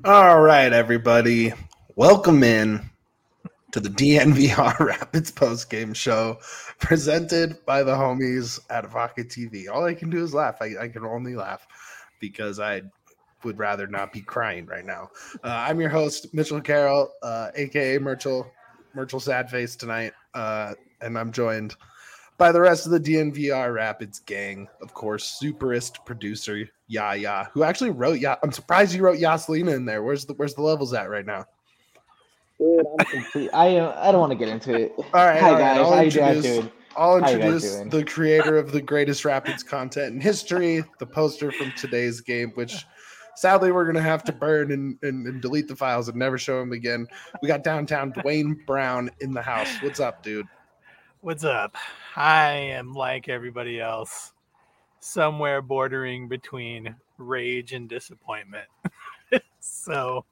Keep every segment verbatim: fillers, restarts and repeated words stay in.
All right, everybody. Welcome in to the D N V R Rapids post-game show presented by the homies at Vodka T V. All I can do is laugh. I, I can only laugh because I would rather not be crying right now. Uh, I'm your host, Mitchell Carroll, uh, a k a. Myrtle, Myrtle Sadface tonight, uh, and I'm joined by the rest of the D N V R Rapids gang. Of course, superist producer Yaya, who actually wrote Ya. I'm surprised you wrote Yaslina in there. Where's the Where's the levels at right now? Dude, I'm complete. I uh, I don't want to get into it. All right, Hi all right. guys, I'll how you guys introduce. doing? I'll How you guys introduce doing? the creator of the greatest Rapids content in history, the poster from today's game, which sadly we're gonna have to burn and, and, and delete the files and never show him again. We got downtown Dwayne Brown in the house. What's up, dude? What's up? I am like everybody else, somewhere bordering between rage and disappointment. so,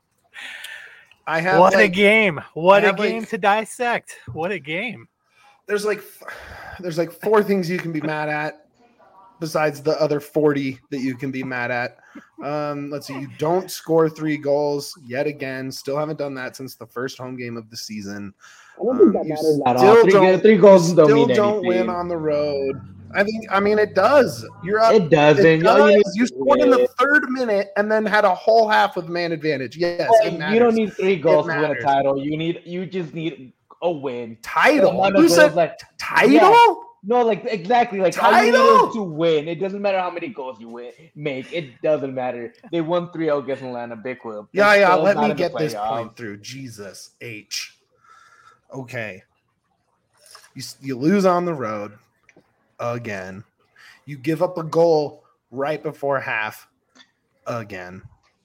I have what like, a game! What I a have, game like- to dissect! What a game! there's like there's like four things you can be mad at besides the other forty that you can be mad at. Um, let's see. You don't score three goals yet again. Still haven't done that since the first home game of the season. I don't Um, think that you matters at still all. Three, don't- three goals don't Still mean don't anything. win on the road. I think. I mean, it does. You're up. It doesn't. It All you, need does. You scored in the third minute and then had a whole half with man advantage. Yes, it you matters. don't need three goals to win a matters. title. You need. You just need a win. The title. amount of Who goals, said like title? Yeah. no, like exactly, like all you need Title? is to win. It doesn't matter how many goals you win make. It doesn't matter. They won three zero against Atlanta Big Wheel. Yeah, They're yeah. still Let not me in the get this playoffs. point through. Jesus H. Okay. You you lose on the road again. You give up a goal right before half again.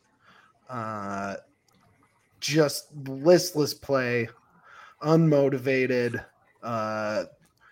Uh, just listless play, unmotivated. Uh,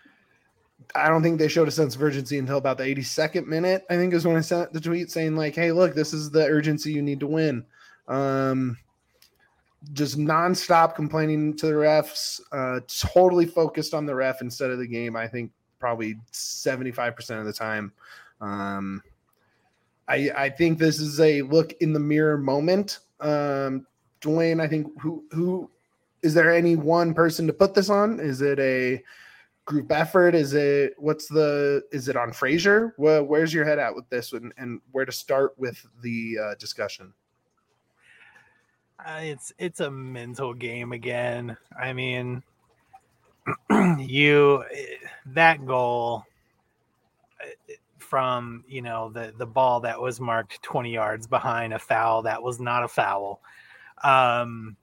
I don't think they showed a sense of urgency until about the eighty-second minute. I think is when I sent the tweet saying like, "Hey, look, this is the urgency you need to win." Um, just nonstop complaining to the refs, uh, totally focused on the ref instead of the game. I think probably seventy-five percent of the time. Um, I, I think this is a look in the mirror moment. Um, Dwayne, I think who, who, is there any one person to put this on? Is it a group effort? Is it, what's the, is it on Frazier? Where, where's your head at with this one and where to start with the uh, discussion? Uh, it's it's a mental game again. I mean, you that goal from you know the the ball that was marked twenty yards behind a foul that was not a foul. Um,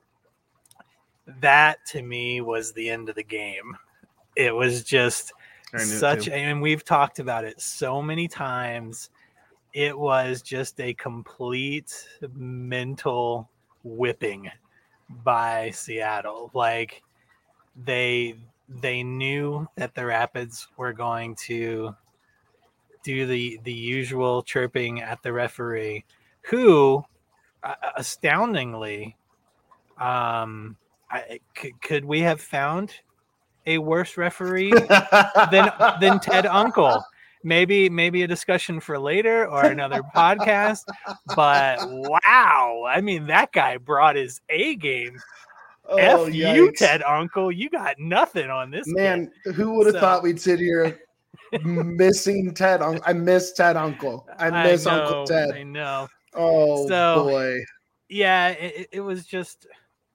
that to me was the end of the game. It was just such, and we've talked about it so many times. It was just a complete mental whipping by Seattle. Like they they knew that the Rapids were going to do the the usual chirping at the referee, who uh, astoundingly um I, c- could we have found a worse referee than than Ted Uncle? Maybe maybe a discussion for later or another podcast. But wow, I mean that guy brought his A game. Oh, F you, yikes. Ted Uncle. You got nothing on this Man, kid. who would have So- thought we'd sit here missing Ted Uncle? I miss Ted Uncle. I miss know, Uncle Ted. I know. Oh So- boy. Yeah, it, it was just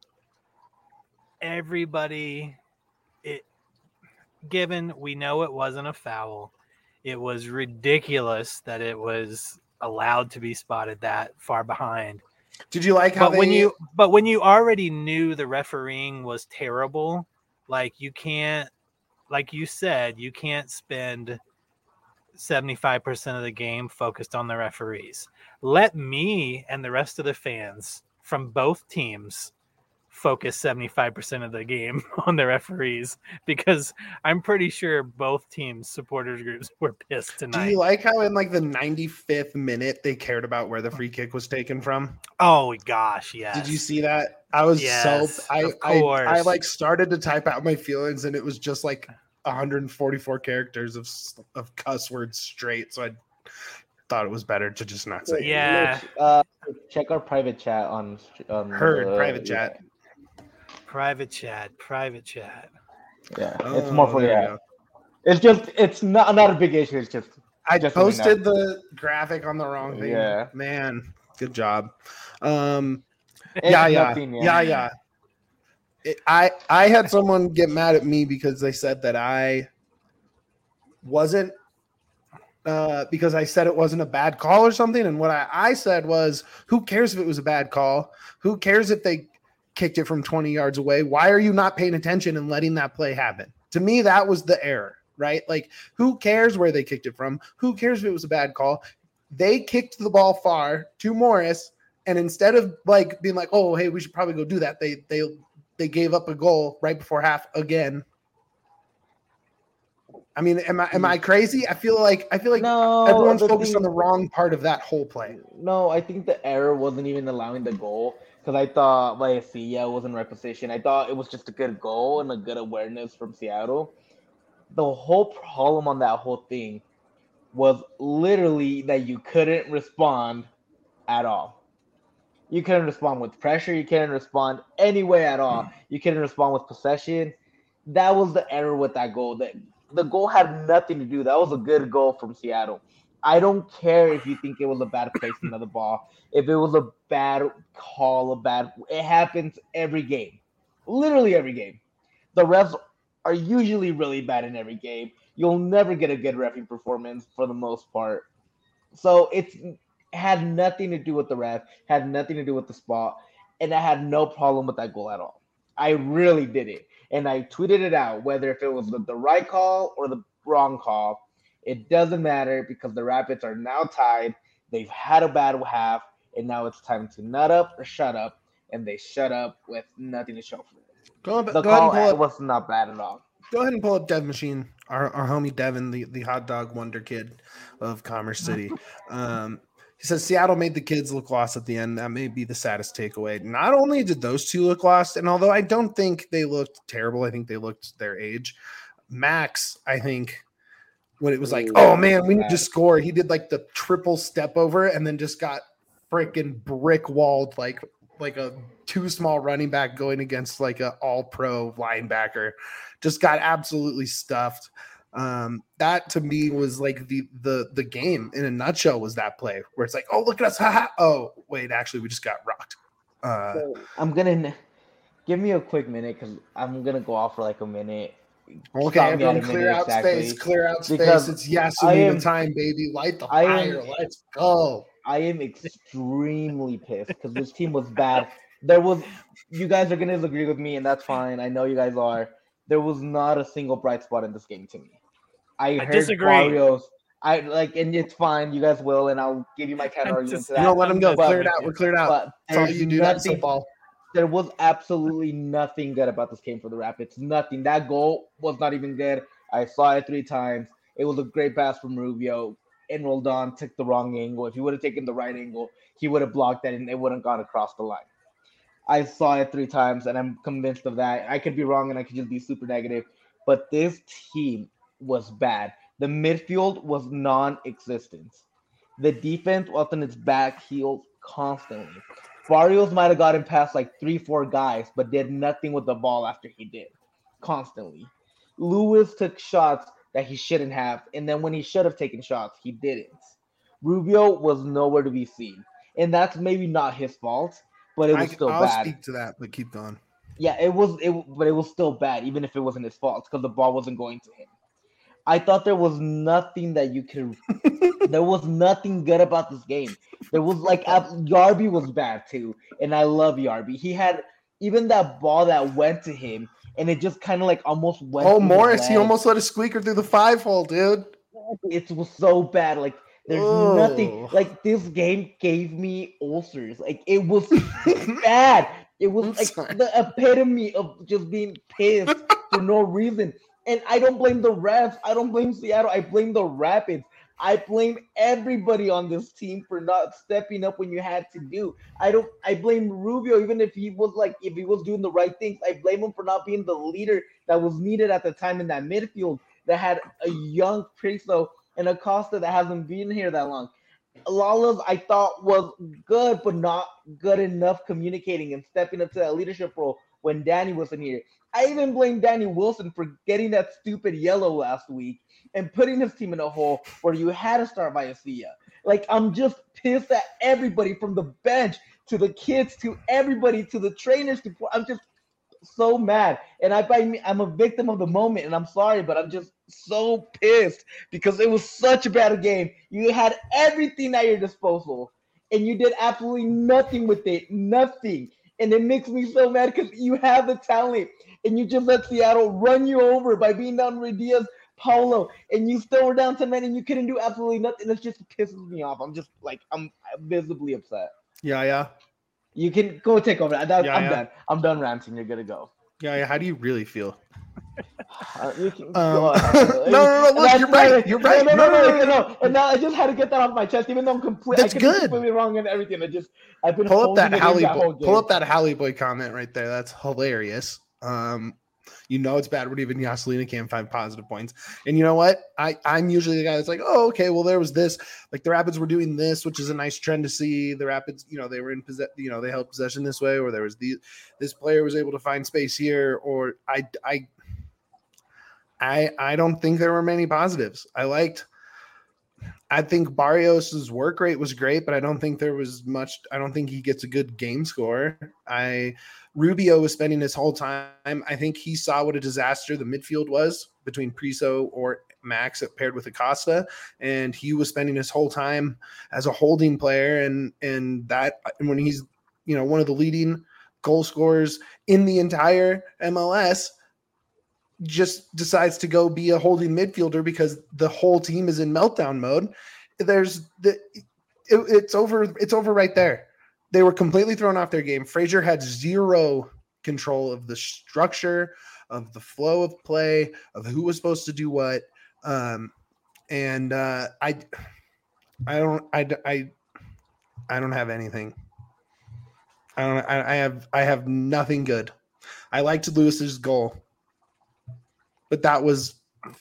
everybody. It given we know it wasn't a foul. It was ridiculous that it was allowed to be spotted that far behind. Did you like how But when they- you but when you already knew the refereeing was terrible, like you can't, like you said, you can't spend seventy-five percent of the game focused on the referees. Let me and the rest of the fans from both teams focus seventy-five percent of the game on the referees, because I'm pretty sure both teams' supporters groups were pissed do tonight. you like how in like the ninety-fifth minute they cared about where the free kick was taken from? Oh gosh, yes. Did you see that? I was Yes, so I, of I course. I like started to type out my feelings and it was just like one hundred forty-four characters of of cuss words straight. So I thought it was better to just not say. Yeah. Uh, check our private chat on. on Heard uh, private chat. Yeah. Private chat. Private chat. Yeah, Oh, it's more for there you yeah. go. It's just it's not not a big issue. It's just I just so we know. posted the graphic on the wrong thing. Yeah. Man, good job. Um, It's yeah, yeah, nothing, yeah, yeah. It, I I had someone get mad at me because they said that I wasn't uh, because I said it wasn't a bad call or something. And what I, I said was, who cares if it was a bad call? Who cares if they kicked it from twenty yards away? Why are you not paying attention and letting that play happen? To me, that was the error, right? Like, who cares where they kicked it from? Who cares if it was a bad call? They kicked the ball far to Morris, and instead of like being like, oh, hey, we should probably go do that, they they they gave up a goal right before half again. I mean, am I am I crazy? I feel like I feel like No, everyone's the focused thing- on the wrong part of that whole play. No, I think the error wasn't even allowing the goal because I thought Vallecilla was in right position. I thought it was just a good goal and a good awareness from Seattle. The whole problem on that whole thing was literally that you couldn't respond at all. You couldn't respond with pressure. You couldn't respond any way at all. You couldn't respond with possession. That was the error with that goal. That the goal had nothing to do. That was a good goal from Seattle. I don't care if you think it was a bad placement of the ball. If it was a bad call, a bad, it happens every game, literally every game. The refs are usually really bad in every game. You'll never get a good referee performance for the most part. So it's had nothing to do with the ref, had nothing to do with the spot, and I had no problem with that goal at all. I really did it. And I tweeted it out, whether if it was the, the right call or the wrong call. It doesn't matter because the Rapids are now tied. They've had a bad half, and now it's time to nut up or shut up. And they shut up with nothing to show for it. Go, The go call ahead and pull up, was not bad at all. go ahead and pull up Dev Machine, our, our homie Devin, the, the hot dog wonder kid of Commerce City. Um, he says Seattle made the kids look lost at the end. That may be the saddest takeaway. Not only did those two look lost, and although I don't think they looked terrible, I think they looked their age. Max, I think, when it was like, oh man, we need to score, he did like the triple step over and then just got freaking brick walled like like a too small running back going against like a all pro linebacker. Just got absolutely stuffed. Um, that to me was like the the the game in a nutshell was that play where it's like, oh look at us, haha. Oh wait, actually we just got rocked. Uh, So I'm gonna give me a quick minute because I'm gonna go off for like a minute. okay, Stop me everyone, at a clear minute out exactly. space, clear out space. Because It's yes, I we am- need time, baby. Light the I am- fire. Let's go. I am extremely pissed because this team was bad. There was, you guys are gonna disagree with me, and that's fine. I know you guys are. There was not a single bright spot in this game to me. I, I heard disagree. Barrios. I like, and it's fine. You guys will, and I'll give you my counter I argument just- to that. You know, let him go. But- Clear it out. We're cleared out. But That's all there's you do. That's nothing. football. There was absolutely nothing good about this game for the Rapids. Nothing. That goal was not even good. I saw it three times. It was a great pass from Rubio. And Roldan took the wrong angle. If he would have taken the right angle, he would have blocked that and it wouldn't have gone across the line. I saw it three times and I'm convinced of that. I could be wrong and I could just be super negative. But this team was bad. The midfield was non-existent. The defense was on its back heels constantly. Barrios might have gotten past like three, four guys, but did nothing with the ball after he did. Constantly. Lewis took shots that he shouldn't have, and then when he should have taken shots, he didn't. Rubio was nowhere to be seen. And that's maybe not his fault, but it was I, still I'll bad. speak to that, but keep going. Yeah, it was it but it was still bad, even if it wasn't his fault, because the ball wasn't going to him. I thought there was nothing that you could there was nothing good about this game. There was like Yarby was bad too, and I love Yarby. He had even that ball that went to him, and it just kind of like almost went. Oh, through his Morris, he leg. almost let a squeaker through the five hole, dude. It was so bad. Like there's Oh. nothing. Like this game gave me ulcers. Like it was bad. It was I'm like sorry. the epitome of just being pissed for no reason. And I don't blame the refs. I don't blame Seattle. I blame the Rapids. I blame everybody on this team for not stepping up when you had to do. I don't. I blame Rubio, even if he was like, if he was doing the right things. I blame him for not being the leader that was needed at the time in that midfield that had a young Priso and Acosta that hasn't been here that long. Lawless, I thought was good, but not good enough communicating and stepping up to that leadership role when Danny wasn't here. I even blame Danny Wilson for getting that stupid yellow last week and putting his team in a hole where you had to start Vallecilla. Like, I'm just pissed at everybody from the bench to the kids to everybody to the trainers. To I'm just so mad. And I, I'm a victim of the moment, and I'm sorry, but I'm just so pissed because it was such a bad game. You had everything at your disposal, and you did absolutely nothing with it. Nothing. And it makes me so mad because you have the talent, and you just let Seattle run you over by being down Ruiz Diaz, Paulo, and you still were down ten men, and you couldn't do absolutely nothing. It just pisses me off. I'm just like, I'm visibly upset. Yeah, yeah. You can go take over. That, yeah, I'm yeah. done. I'm done ranting. You're gonna go. Yeah, yeah. How do you really feel? Uh, you can um, go no, no, no. Look, you're right. You're right. No, no, no, no, no, no, no. And now I just had to get that off my chest, even though I'm completely. That's I could be good. completely wrong and everything. I just I've been pull up that Halle. that Boy, pull up that Halle Boy comment right there. That's hilarious. Um, you know it's bad when even Yaselina can't find positive points. And you know what? I I'm usually the guy that's like, oh, okay, well there was this. Like the Rapids were doing this, which is a nice trend to see. The Rapids, you know, they were in possession. You know, they held possession this way, or there was the this player was able to find space here, or I I. I, I don't think there were many positives. I liked, I think Barrios's work rate was great, but I don't think there was much. I don't think he gets a good game score. I Rubio was spending his whole time. I think he saw what a disaster the midfield was between Priso or Max paired with Acosta, and he was spending his whole time as a holding player. And and that and when he's you know one of the leading goal scorers in the entire M L S. Just decides to go be a holding midfielder because the whole team is in meltdown mode. There's the it, it's over. It's over right there. They were completely thrown off their game. Frazier had zero control of the structure, of the flow of play, of who was supposed to do what. Um, and uh, I, I don't, I, I, I don't have anything. I don't. I, I have. I have nothing good. I liked Lewis's goal. But that was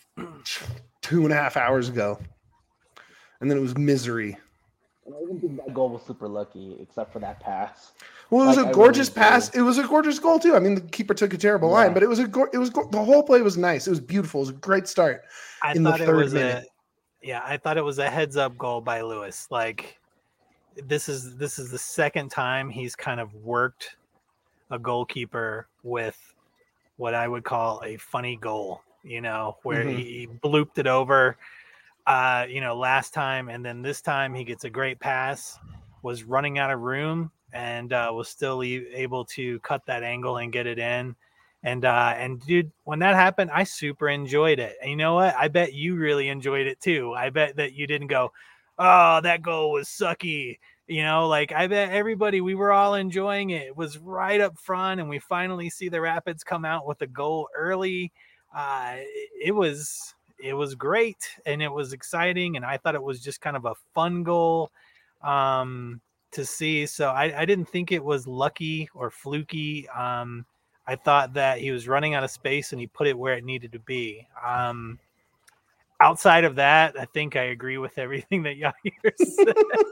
two and a half hours ago. And then it was misery. And I even think that goal was super lucky, except for that pass. Well, it was like, a gorgeous really pass. It was a gorgeous goal, too. I mean, the keeper took a terrible yeah. line, but it was a go- it was go- the whole play was nice. It was beautiful. It was a great start I in the thought third it was minute. A, yeah, I thought it was a heads-up goal by Lewis. Like, this is this is the second time he's kind of worked a goalkeeper with what I would call a funny goal, you know, where mm-hmm. he blooped it over, uh, you know, last time. And then this time he gets a great pass, was running out of room and uh, was still e- able to cut that angle and get it in. And, uh, and dude, when that happened, I super enjoyed it. And you know what? I bet you really enjoyed it too. I bet that you didn't go, oh, that goal was sucky. You know, like I bet everybody, we were all enjoying it. It was right up front, and we finally see the Rapids come out with a goal early. Uh, it, it was it was great, and it was exciting, and I thought it was just kind of a fun goal um, to see. So I, I didn't think it was lucky or fluky. Um, I thought that he was running out of space, and he put it where it needed to be. Um, outside of that, I think I agree with everything that Yair said.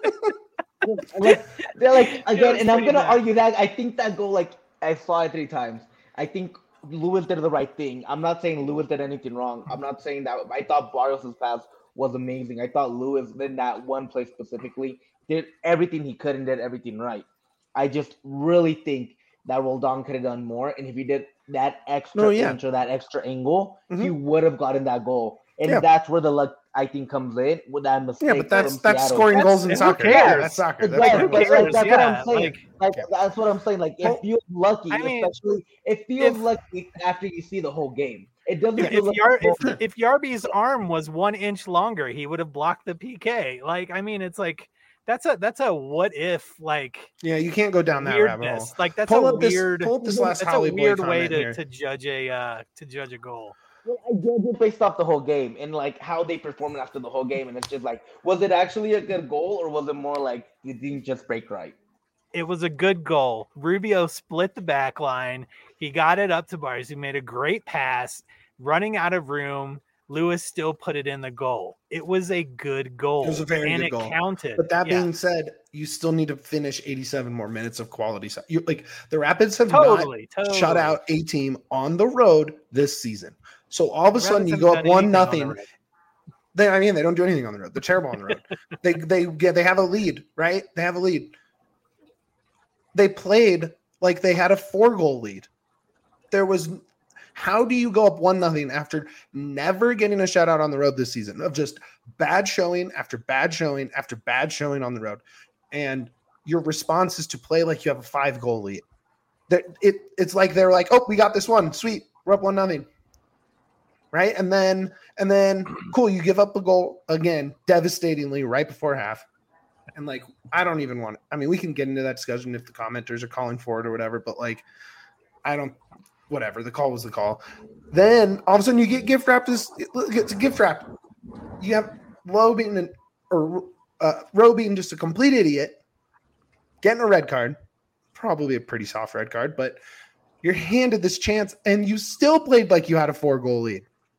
like, they're like again, and I'm gonna bad. argue that I think that goal, like I saw it three times. I think Lewis did the right thing. I'm not saying Lewis did anything wrong. I'm not saying that. I thought Barrios' pass was amazing. I thought Lewis in that one play specifically did everything he could and did everything right. I just really think that Roldan could have done more, and if he did that extra oh, yeah. inch or that extra angle, mm-hmm. he would have gotten that goal. And yeah. that's where the luck, I think, comes in with that mistake. Yeah, but that's from that's Seattle. scoring that's, goals in soccer. Yeah, that's soccer. That's, right, but, like, that's yeah, what I'm saying. Like, like yeah. that's what I'm saying. Like it feels lucky, I mean, especially it feels if, lucky after you see the whole game. It doesn't. If, feel if, Yar, if, if Yarby's arm was one inch longer, he would have blocked the P K. Like, I mean, it's like that's a that's a what if like. Yeah, you can't go down that rabbit hole. Like that's pull a up weird. This, pull up this last that's Halle a weird Boy way to, here. to judge a uh, to judge a goal. Well, I judge it based off the whole game and like how they performed after the whole game, and it's just like, was it actually a good goal or was it more like it didn't just break right? It was a good goal. Rubio split the back line. He got it up to Barrios. He made a great pass, running out of room. Lewis still put it in the goal. It was a good goal. It was a very and good it goal. counted. But that yeah. being said, you still need to finish eighty-seven more minutes of quality. You like the Rapids have totally, not totally. shut out a team on the road this season. So all of a sudden you go up one nothing. The they, I mean, they don't do anything on the road. They're terrible on the road. they they get they have a lead, right? They have a lead. They played like they had a four goal lead. There was. How do you go up one nothing after never getting a shutout on the road this season of just bad showing after bad showing after bad showing on the road, and your response is to play like you have a five goal lead? That it it's like they're like, oh, we got this one, sweet, we're up one nothing, right? And then and then cool, you give up a goal again, devastatingly right before half, and like I don't even want. I mean, we can get into that discussion if the commenters are calling for it or whatever, but like I don't. Whatever, the call was the call. Then all of a sudden you get gift wrapped. This gets gift wrapped. You have Lowe being an, or uh, Rowe being just a complete idiot, getting a red card, probably a pretty soft red card, but you're handed this chance and you still played like you had a four goal lead.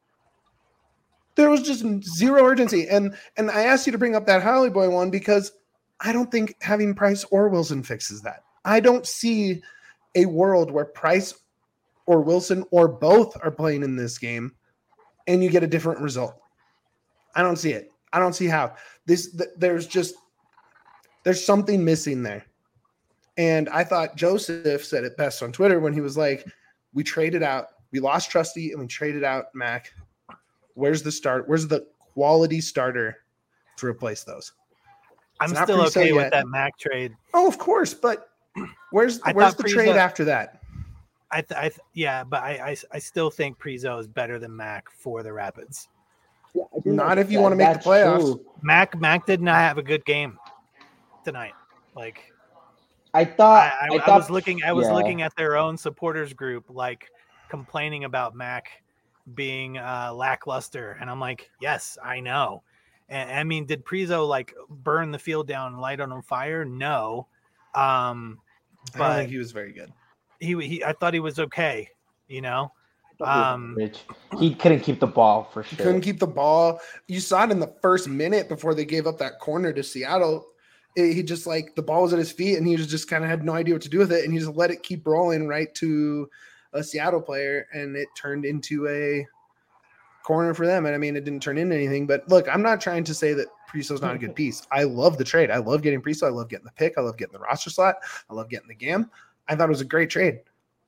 There was just zero urgency, and and I asked you to bring up that Holly Boy one because I don't think having Price or Wilson fixes that. I don't see a world where Price or Wilson or both are playing in this game and you get a different result. I don't see it. I don't see how. This th- there's just there's something missing there. And I thought Joseph said it best on Twitter when he was like, we traded out, we lost Trusty and we traded out Mac. Where's the start? Where's the quality starter to replace those? I'm still okay with that Mac trade. Oh, of course, but where's the, where's the Prizo, trade after that? I, th- I th- yeah, but I, I I still think Prizo is better than Mac for the Rapids. Yeah, not if you that, want to make the playoffs. True. Mac Mac did not have a good game tonight. Like I thought, I, I, I, I thought, was looking, I was yeah. looking at their own supporters group, like complaining about Mac being uh, lackluster, and I'm like, yes, I know. And I mean, did Prizo like burn the field down and light it on fire? No, um, but I don't think he was very good. He, he, I thought he was okay. You know, um, he couldn't keep the ball for sure. He couldn't keep the ball. You saw it in the first minute before they gave up that corner to Seattle. It, he just like the ball was at his feet, and he was just kind of had no idea what to do with it, and he just let it keep rolling right to a Seattle player, and it turned into a corner for them. And I mean, it didn't turn into anything. But look, I'm not trying to say that Priso's not a good piece. I love the trade. I love getting Priso. I love getting the pick. I love getting the roster slot. I love getting the G A M. I thought it was a great trade.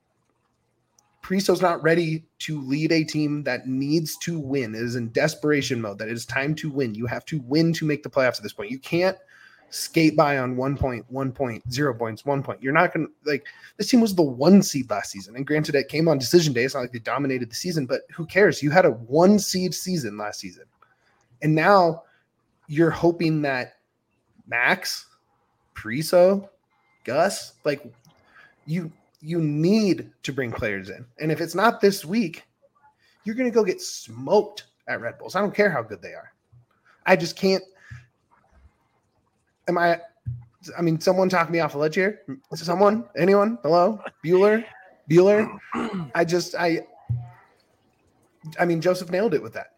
Priso's not ready to lead a team that needs to win. It is in desperation mode, that it is time to win. You have to win to make the playoffs at this point. You can't skate by on one point, one point, zero points, one point. You're not going to, like, this team was the one seed last season. And granted, it came on decision day. It's not like they dominated the season, but who cares? You had a one seed season last season. And now you're hoping that Max, Priso, Gus, like, you you need to bring players in. And if it's not this week, you're going to go get smoked at Red Bulls. I don't care how good they are. I just can't. Am I – I mean, someone talk me off a ledge here. Someone? Anyone? Hello? Bueller? Bueller? I just – I I mean, Joseph nailed it with that.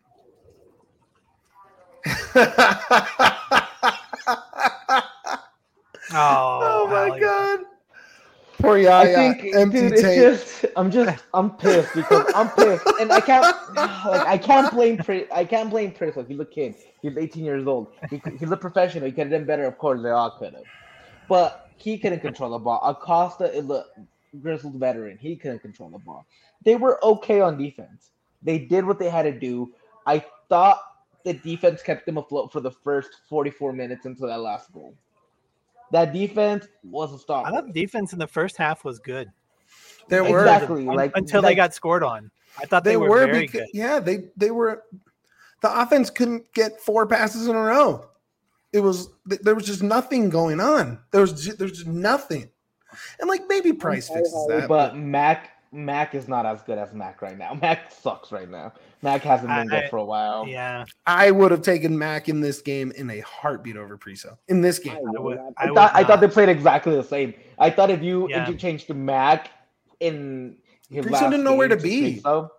oh, oh, my Allie. God. Poor Yaya, I think, empty dude, it's tank. just, I'm just, I'm pissed because I'm pissed, and I can't, like, I can't blame, Pri- I can't blame Price. Like, he's a kid, he's eighteen years old, he, he's a professional. He could have done better, of course. They all could have, but he couldn't control the ball. Acosta is a grizzled veteran. He couldn't control the ball. They were okay on defense. They did what they had to do. I thought the defense kept them afloat for the first forty-four minutes until that last goal. That defense was a stop. I thought the defense in the first half was good. There were exactly like until like, they got scored on. I thought they, they were, were very because, good. Yeah, they they were. The offense couldn't get four passes in a row. It was there was just nothing going on. There was just, there was just nothing. And like maybe Price fixes that, but Mac Mac is not as good as Mac right now. Mac sucks right now. Mac hasn't been I, good for a while. Yeah, I would have taken Mac in this game in a heartbeat over Priso. In this game, I, would, I, I would thought I not. thought they played exactly the same. I thought if you Yeah. interchanged to Mac in his Priso last didn't know where to game be. Priso,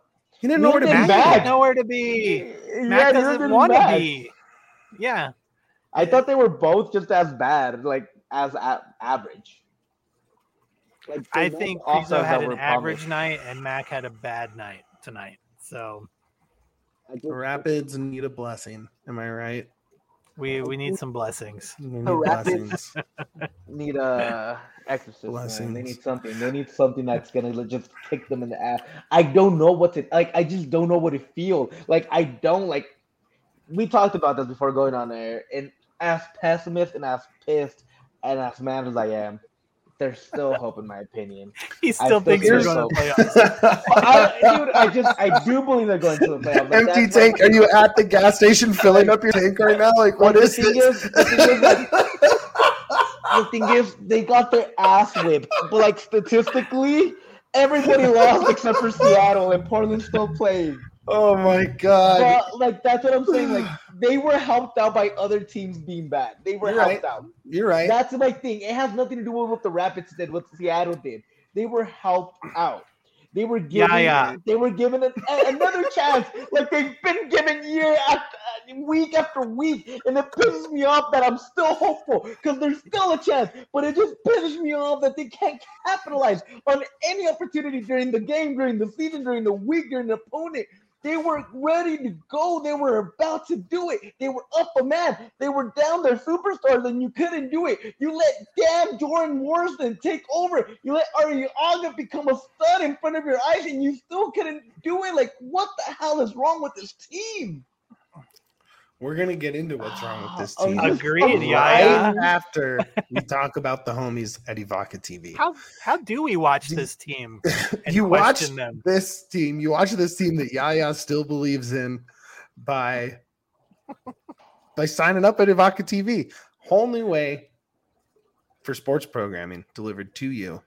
He didn't know where to be. Mac didn't know where to be. Yeah, Mac doesn't want to be. Yeah. I thought they were both just as bad, like as a- average. Like I think Krizo had an average promised. night and Mac had a bad night tonight. So the Rapids need a blessing. Am I right? We we need some blessings. Need the Rapids need a exorcism. They need something. They need something that's gonna just kick them in the ass. I don't know what to like. I just don't know what to feel. Like I don't like. We talked about this before going on there, and as pessimist and as pissed and as mad as I am, there's still hope in my opinion. He still, still thinks they're going to playoffs. I, dude, I just I do believe they're going to the playoffs. Empty tank. Are you at the gas station filling up your tank right now? Like what like, is the this? Thing is, the, thing is, like, the thing is, they got their ass whipped, but like statistically, everybody lost except for Seattle, and Portland's still playing. Oh my god! But, like that's what I'm saying. Like they were helped out by other teams being bad. They were You're helped right. out. You're right. That's my thing. It has nothing to do with what the Rapids did, what Seattle did. They were helped out. They were given. Yeah, yeah. They were given an, another chance, like they've been given year after week after week, and it pisses me off that I'm still hopeful because there's still a chance. But it just pisses me off that they can't capitalize on any opportunity during the game, during the season, during the week, during the opponent. They were ready to go. They were about to do it. They were up a man. They were down their superstars, and you couldn't do it. You let damn Jordan Morrison take over. You let Arriaga become a stud in front of your eyes, and you still couldn't do it. Like, what the hell is wrong with this team? We're gonna get into what's wrong with this team. Agreed, yeah. Right after we talk about the homies at Evoca T V. How how do we watch this team? And you watch them? this team. You watch this team that Yaya still believes in by by signing up at Evoca T V. Whole new way for sports programming delivered to you.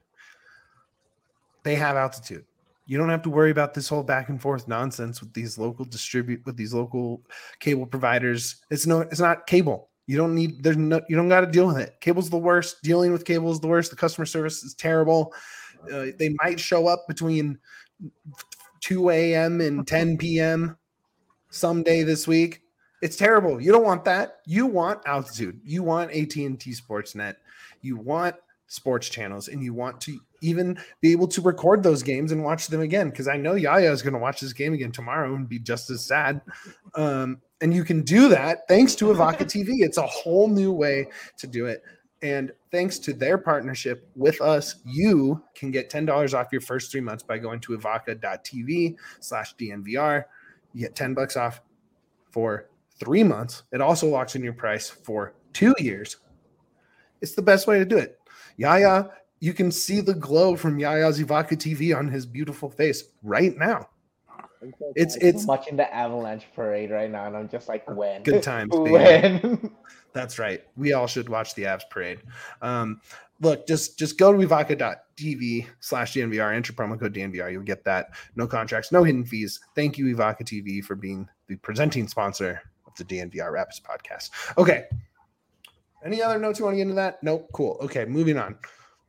They have altitude. You don't have to worry about this whole back and forth nonsense with these local distribute with these local cable providers. It's no, it's not cable. You don't need. There's no. You don't got to deal with it. Cable's the worst. Dealing with cable is the worst. The customer service is terrible. Uh, they might show up between two a.m. and ten p.m. someday this week. It's terrible. You don't want that. You want altitude. You want A T and T Sportsnet. You want sports channels, and you want to even be able to record those games and watch them again, because I know Yaya is going to watch this game again tomorrow and be just as sad. Um, and you can do that thanks to Evoca T V. It's a whole new way to do it. And thanks to their partnership with us, you can get ten dollars off your first three months by going to evoca.tv slash DNVR. You get ten bucks off for three months. It also locks in your price for two years. It's the best way to do it. Yaya, you can see the glow from Yaya's Evoca T V on his beautiful face right now. It's it's I'm watching the Avalanche parade right now, and I'm just like, when? Good times, baby. When? That's right. We all should watch the Avs parade. Um, look, just just go to evoca.tv slash DNVR, enter promo code D N V R. You'll get that. No contracts, no hidden fees. Thank you, Evoca T V, for being the presenting sponsor of the D N V R Rapids podcast. Okay. Any other notes you want to get into that? Nope. Cool. Okay, moving on.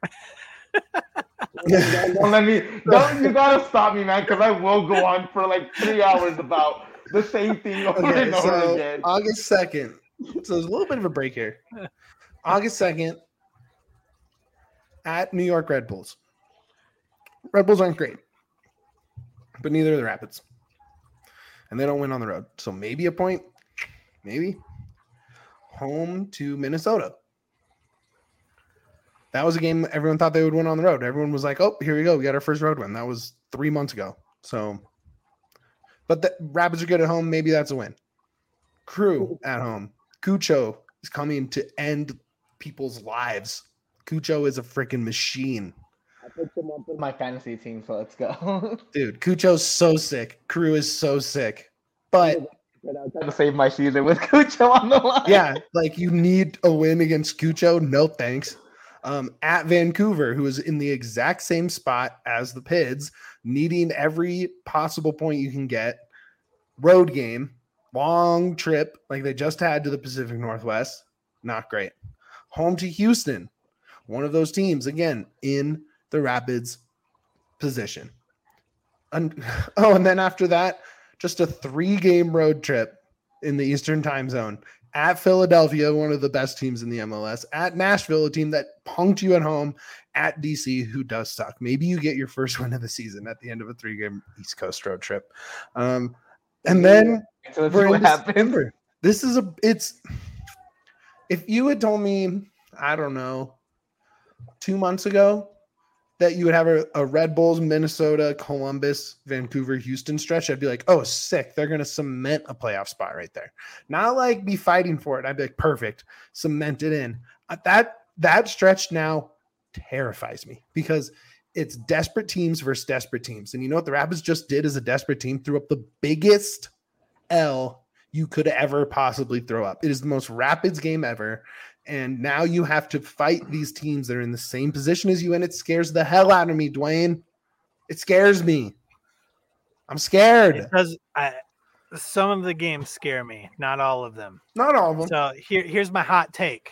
Don't let me. Don't you gotta stop me, man, because I will go on for like three hours about the same thing over okay, and over so again. August second. So there's a little bit of a break here. August second at New York Red Bulls. Red Bulls aren't great, but neither are the Rapids, and they don't win on the road. So maybe a point, maybe. Home to Minnesota. That was a game everyone thought they would win on the road. Everyone was like, oh, here we go. We got our first road win. That was three months ago. So, but the Rapids are good at home. Maybe that's a win. Crew at home. Cucho is coming to end people's lives. Cucho is a freaking machine. I picked him up in my fantasy team, so let's go. Dude, Cucho's so sick. Crew is so sick. But I'm trying to save my season with Cucho on the line. Yeah, like you need a win against Cucho. No thanks. Um, at Vancouver, who is in the exact same spot as the Pids, needing every possible point you can get. Road game, long trip, like they just had to the Pacific Northwest. Not great. Home to Houston, one of those teams, again, in the Rapids position. And, oh, and then after that, just a three-game road trip in the Eastern time zone. At Philadelphia, one of the best teams in the M L S. At Nashville, a team that punked you at home. At D C, who does suck. Maybe you get your first win of the season at the end of a three-game East Coast road trip. Um, and then so let's see what happens. This is a it's if you had told me, I don't know, two months ago that you would have a, a Red Bulls, Minnesota, Columbus, Vancouver, Houston stretch, I'd be like, oh, sick. They're going to cement a playoff spot right there. Not like be fighting for it. I'd be like, perfect. Cement it in. Uh, that that stretch now terrifies me because it's desperate teams versus desperate teams. And you know what the Rapids just did as a desperate team? Threw up the biggest L you could ever possibly throw up. It is the most Rapids game ever. And now you have to fight these teams that are in the same position as you, and it scares the hell out of me, Dwayne. It scares me. I'm scared. It does, I, some of the games scare me, not all of them. Not all of them. So here, here's my hot take.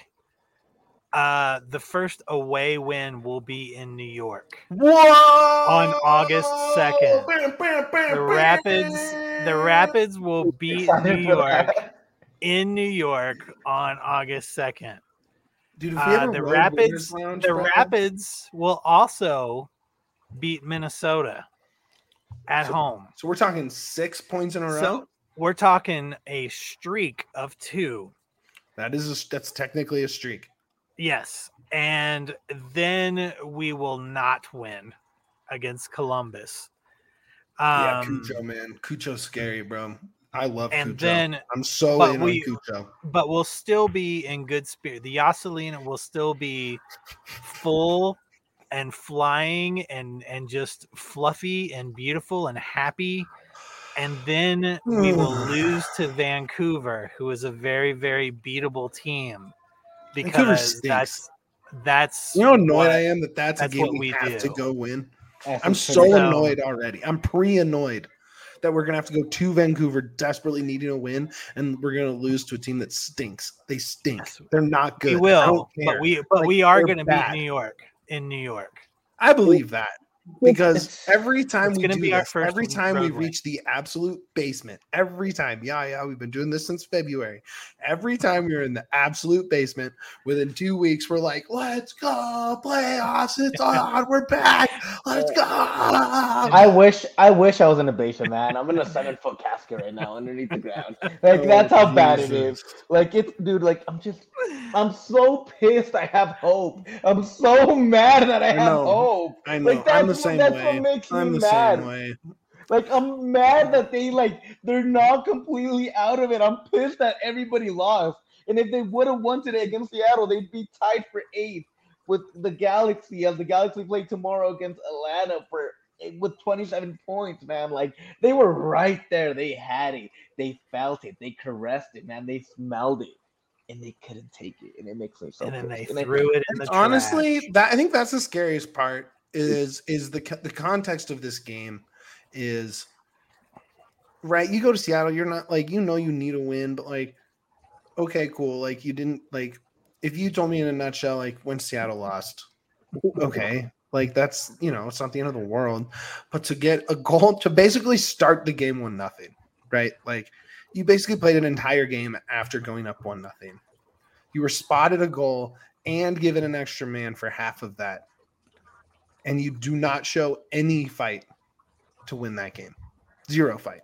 Uh, the first away win will be in New York. Whoa! On August second. The Rapids, the Rapids will beat New York in New York on August second. Dude, if we Uh, have a the road Rapids, winners lounge, the bro, Rapids will also beat Minnesota at So- home. So we're talking six points in a row. So we're talking a streak of two. that is a, that's technically a streak. Yes. And then we will not win against Columbus. yeah, Um, Cucho, man. Cucho's scary, bro. I love and Cucho. then, I'm so but in we- on Cucho. but we'll still be in good spirit. The Yasselina will still be full and flying and, and just fluffy and beautiful and happy. And then we will lose to Vancouver, who is a very, very beatable team. Vancouver Because stinks. that's that's You know how annoyed what- I am that that's, that's a game what we we have to do. go win. That's I'm a so pretty- So- annoyed already. I'm pre-annoyed that we're gonna have to go to Vancouver desperately needing a win, and we're gonna lose to a team that stinks. They stink. Yes. They're not good. We I don't will, care. but we but Like, we are they're going to beat bad. New York in New York. I believe that. Because every time It's we gonna do be our this, first every time we road win. reach the absolute basement, every time, yeah, yeah, we've been doing this since February. Every time we're in the absolute basement, within two weeks, we're like, let's go, playoffs, it's on, we're back, let's go. I wish I wish I was in a basement, man. I'm in a seven foot casket right now underneath the ground. Like Oh, that's how bad it Jesus. is. Like it's dude, like I'm just I'm so pissed I have hope. I'm so mad that I I have know. hope. I know, Like I'm the that's same what, that's way. what makes I'm me the mad. same way. Like I'm mad that they like they're not completely out of it. I'm pissed that everybody lost. And if they would have won today against Seattle, they'd be tied for eighth with the Galaxy as the Galaxy play tomorrow against Atlanta for with twenty-seven points, man. Like they were right there. They had it. They felt it. They caressed it, man. They smelled it. And they couldn't take it. And it makes me so And then they pissed. And I- threw it in the Honestly, trash. that I think that's the scariest part is is the co- the context of this game is right. You go to Seattle, you're not like you know you need a win, but like okay, cool. Like you didn't like if you told me in a nutshell like when Seattle lost, okay, like that's you know it's not the end of the world, but to get a goal to basically start the game one nothing, right? Like you basically played an entire game after going up one nothing. You were spotted a goal and given an extra man for half of that. And you do not show any fight to win that game. Zero fight.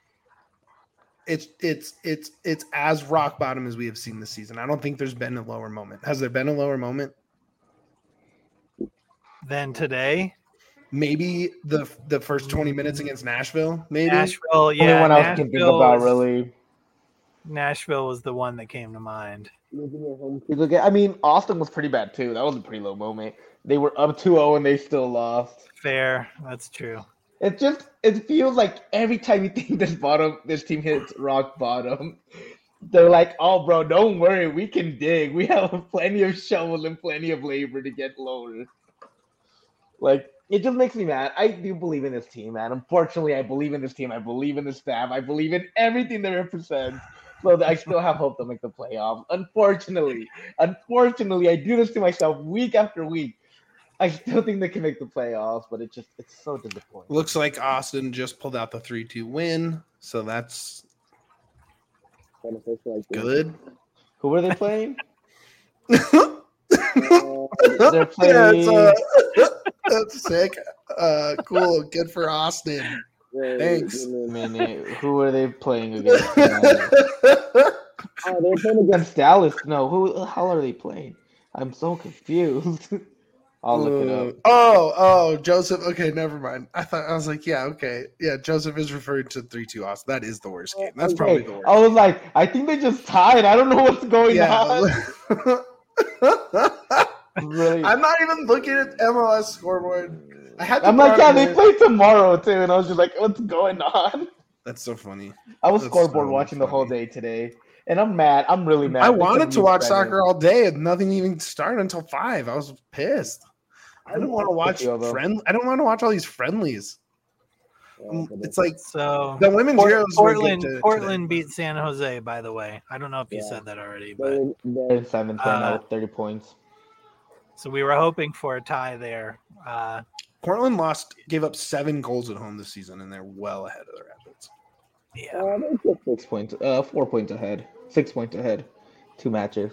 It's it's it's it's as rock bottom as we have seen this season. I don't think there's been a lower moment. Has there been a lower moment? Then today, Maybe the the first twenty minutes against Nashville. Maybe Nashville, Only yeah, one I was thinking Nashville about was, really. Nashville was the one that came to mind. I mean, Austin was pretty bad too. That was a pretty low moment. They were up two oh and they still lost. Fair, that's true. It just it feels like every time you think this bottom this team hits rock bottom, they're like, "Oh, bro, don't worry, we can dig. We have plenty of shovels and plenty of labor to get lower." Like it just makes me mad. I do believe in this team, man. Unfortunately, I believe in this team. I believe in the staff. I believe in everything they represent. So I still have hope to make the playoffs. Unfortunately, unfortunately, I do this to myself week after week. I still think they can make the playoffs, but it just it's so disappointing. Looks like Austin just pulled out the three two win, so that's good. Who are they playing? uh, They're playing. Yeah, uh, that's sick. Uh, cool. Good for Austin. Thanks. Minute. Who are they playing against? Oh, they're playing against Dallas. No, who the hell are they playing? I'm so confused. I'll look it up. Oh, oh, Joseph. Okay, never mind. I thought I was like, yeah, okay, yeah. Joseph is referring to three two Austin. That is the worst game. That's Okay. probably the worst. I was like, I think they just tied. I don't know what's going Yeah. on. Really? I'm not even looking at M L S scoreboard. I had. To I'm like, put yeah, on they the- play tomorrow too, and I was just like, what's going on? That's so funny. I was That's scoreboard so watching the whole funny. day today, and I'm mad. I'm really mad. I because wanted to you watch said soccer it. all day, and nothing even started until five. I was pissed. I didn't want to watch Tokyo, though. friend. I don't want to watch all these friendlies. Um, It's like So the women's Port- Euros were good Portland to- Portland today. beat San Jose, by the way. I don't know if you Yeah. said that already, but They're, they're in seventh right now Uh, with thirty points. so we were hoping for a tie there. Uh, Portland lost, gave up seven goals at home this season, and they're well ahead of the Rapids. yeah. Uh, they're just six points, uh, four points ahead, six points ahead, two matches.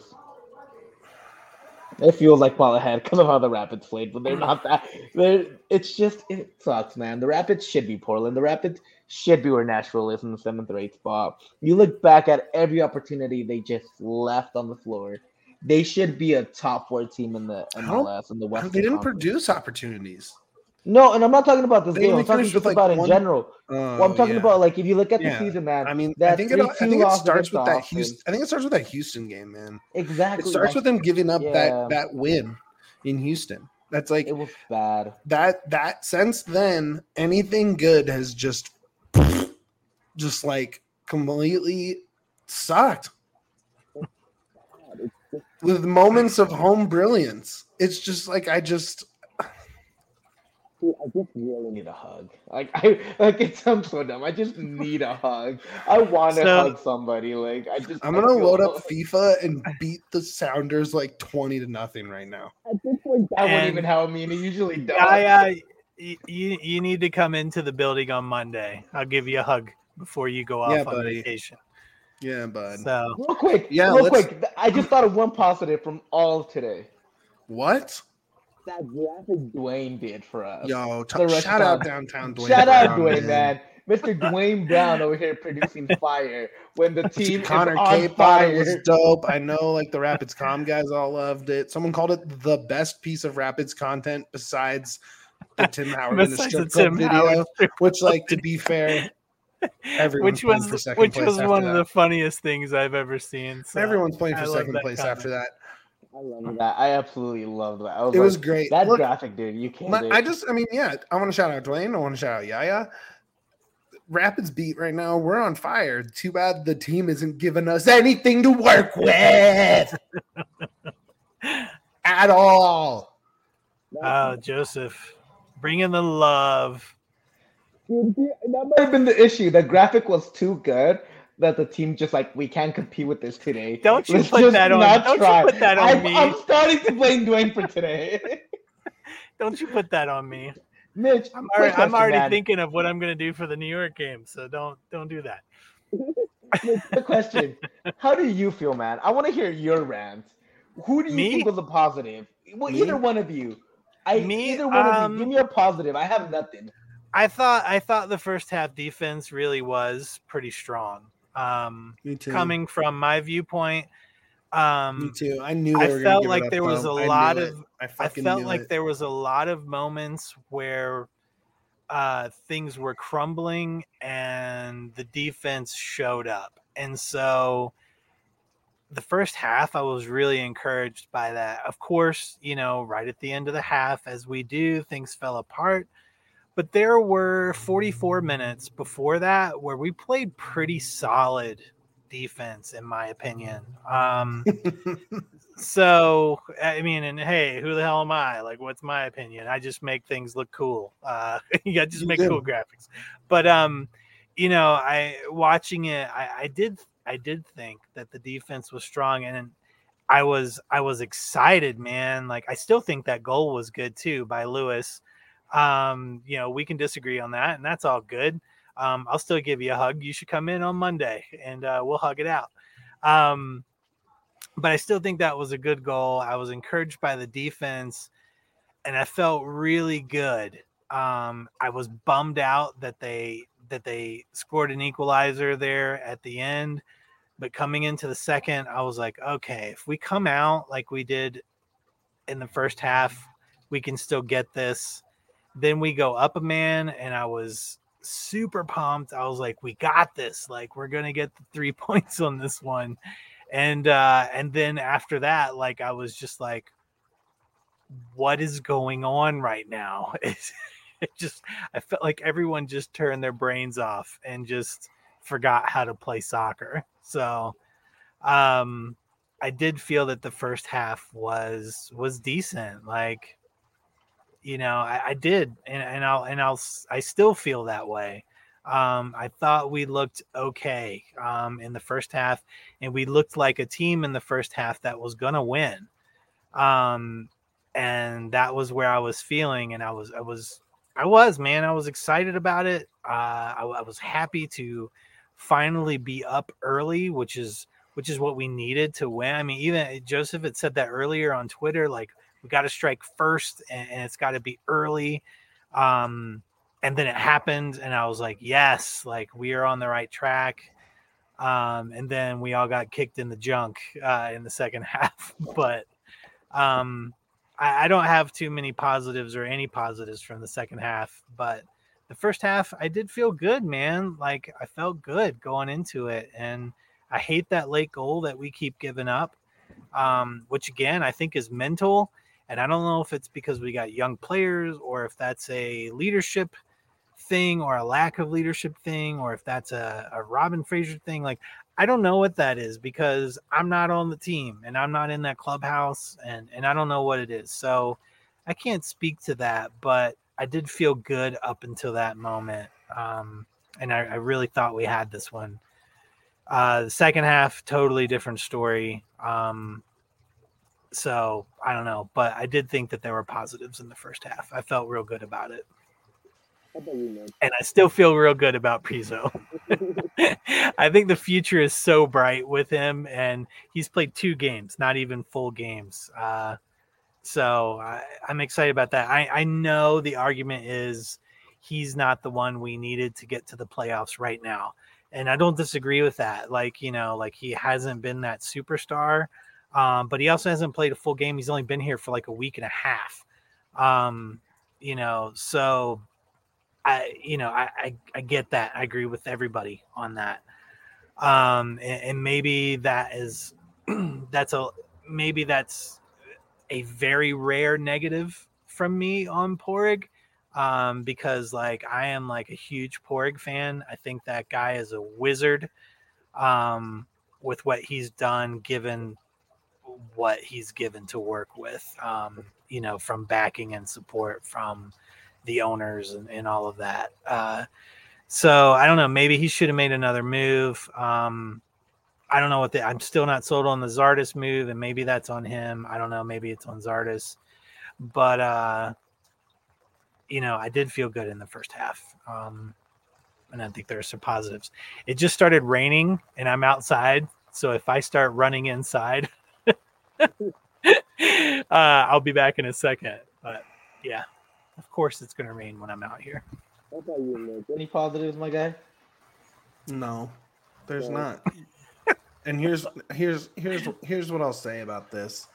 It feels like well ahead because of how the Rapids played, but they're not that. They're, it's just it sucks, man. The Rapids should be Portland. The Rapids should be where Nashville is in the seventh or eighth spot. You look back at every opportunity they just left on the floor. They should be a top four team in the M L S in the Western They didn't Conference. produce opportunities. No, and I'm not talking about this They game. only I'm talking finished just with, like, about in one- general. Oh, Well, I'm talking yeah. about like if you look at the Yeah. season, man. I mean, that I think it. I three two think it loss starts against with that Austin. Houston. I think it starts with that Houston game, man. Exactly. It starts like, with them giving up yeah. that that win in Houston. That's like It was bad. that. That since then, anything good has just, just like completely sucked. With moments of home brilliance, it's just like I just. Dude, I just really need a hug. Like I like it sounds so dumb. I just need a hug. I want to So- hug somebody. Like I just. I'm I gonna feel- load up FIFA and beat the Sounders like twenty to nothing right now. At this point, that wouldn't And- even help me, and it usually does. I, uh, y- you you need to come into the building on Monday. I'll give you a hug before you go off Yeah, on buddy. vacation. Yeah, bud. So Real quick, Yeah, real let's- quick. I just thought of one positive from all of today. What? That graphic Dwayne did for us. Yo, t- The shout out restaurant. downtown Dwayne. Shout out Brown, Dwayne, man. Mister Dwayne Brown over here producing fire when the team Connor is on Cape thought fire. it was dope. I know, like the Rapids Com guys all loved it. Someone called it the best piece of Rapids content besides the Tim Howard in the besides strip the club Tim video. Howard strip Which, like, to be fair, everyone's which playing was for second which place was after one that. of the funniest things I've ever seen. So Everyone's playing I for love second that place comment. after that. I love that. I absolutely loved that. I was It like, was great. that Look, graphic, dude. You can't. My- I just, I mean, yeah, I want to shout out Dwayne. I want to shout out Yaya. Rapids beat right now. We're on fire. Too bad the team isn't giving us anything to work with at all. Oh, Joseph, bring in the love. Dude, that might have been the issue. The graphic was too good that the team just like we can't compete with this today. Don't you Let's put just that on- not don't you try. put that on I'm, me. I'm starting to blame Dwayne for today. Don't you put that on me? Mitch, I'm quick already, I'm question, already man. thinking of what I'm going to do for the New York game. So don't don't do that. Mitch, quick question. How do you feel, man? I want to hear your rant. Who do you Me? think was a positive? Well, Me? either one of you. I Me? either one of Um, you. Give me a positive. I have nothing. I thought I thought the first half defense really was pretty strong. Um, Me too. coming from my viewpoint, Me um, too. I knew I they were gonna felt give it like up, there was though. a I lot knew of- it. I I fucking felt knew like it. there was a lot of moments where uh, things were crumbling and the defense showed up. And so the first half, I was really encouraged by that. Of course, you know, right at the end of the half, as we do, things fell apart. But there were forty-four minutes before that where we played pretty solid defense, in my opinion. Um, so, I mean, and hey, who the hell am I? Like, what's my opinion? I just make things look cool. Uh, you got just You make do. cool graphics. But, um, you know, I watching it, I, I did, I did think that the defense was strong, and I was I was excited, man. Like I still think that goal was good too by Lewis. Um, you know, we can disagree on that, and that's all good. Um, I'll still give you a hug. You should come in on Monday, and uh, we'll hug it out. Um, but I still think that was a good goal. I was encouraged by the defense, and I felt really good. Um, I was bummed out that they that they scored an equalizer there at the end. But coming into the second, I was like, okay, if we come out like we did in the first half, we can still get this. Then we go up a man, and I was super pumped. I was like, we got this. Like, we're going to get the three points on this one. And uh, and then after that, like, I was just like, what is going on right now? It, it just, I felt like everyone just turned their brains off and just forgot how to play soccer. So um, I did feel that the first half was was decent. Like, you know, I, I did, and, and I'll and I'll I still feel that way. Um, I thought we looked okay um, in the first half, and we looked like a team in the first half that was gonna win. Um, and that was where I was feeling, and I was I was I was man, I was excited about it. Uh, I, I was happy to finally be up early, which is which is what we needed to win. I mean, even Joseph had said that earlier on Twitter, like, we got to strike first, and, and it's got to be early. Um, and then it happened, and I was like, yes, like, we are on the right track. Um, and then we all got kicked in the junk uh, in the second half. But um, I, I don't have too many positives or any positives from the second half, but the first half, I did feel good, man. Like, I felt good going into it. And I hate that late goal that we keep giving up, um, which, again, I think is mental. And I don't know if it's because we got young players, or if that's a leadership thing, or a lack of leadership thing, or if that's a, a Robin Fraser thing. Like, I don't know what that is, because I'm not on the team, and I'm not in that clubhouse, and, and I don't know what it is. So I can't speak to that, but I did feel good up until that moment. Um, and I, I really thought we had this one. Uh, the second half, totally different story. Um, so I don't know, but I did think that there were positives in the first half. I felt real good about it. How about you, man? And I still feel real good about Priso. I think the future is so bright with him, and he's played two games, not even full games. Uh, So I, I'm excited about that. I, I know the argument is he's not the one we needed to get to the playoffs right now. And I don't disagree with that. Like, you know, like, he hasn't been that superstar, um, but he also hasn't played a full game. He's only been here for like a week and a half. Um, you know, so I, you know, I, I, I get that. I agree with everybody on that. Um, and, and maybe that is, that's a, maybe that's, a very rare negative from me on Pohrig, um, because, like, I am like a huge Pohrig fan. I think that guy is a wizard um, with what he's done, given what he's given to work with, um, you know, from backing and support from the owners and, and all of that. Uh, so I don't know, maybe he should have made another move. Um, I don't know what the, I'm still not sold on the Zardes move, and maybe that's on him. I don't know. Maybe it's on Zardes, but uh, you know, I did feel good in the first half. Um, and I think there are some positives. It just started raining, and I'm outside. So if I start running inside, uh, I'll be back in a second. But yeah, of course it's going to rain when I'm out here. How about you, man? Any positives, my guy? No, there's No. not. And here's here's here's here's what I'll say about this.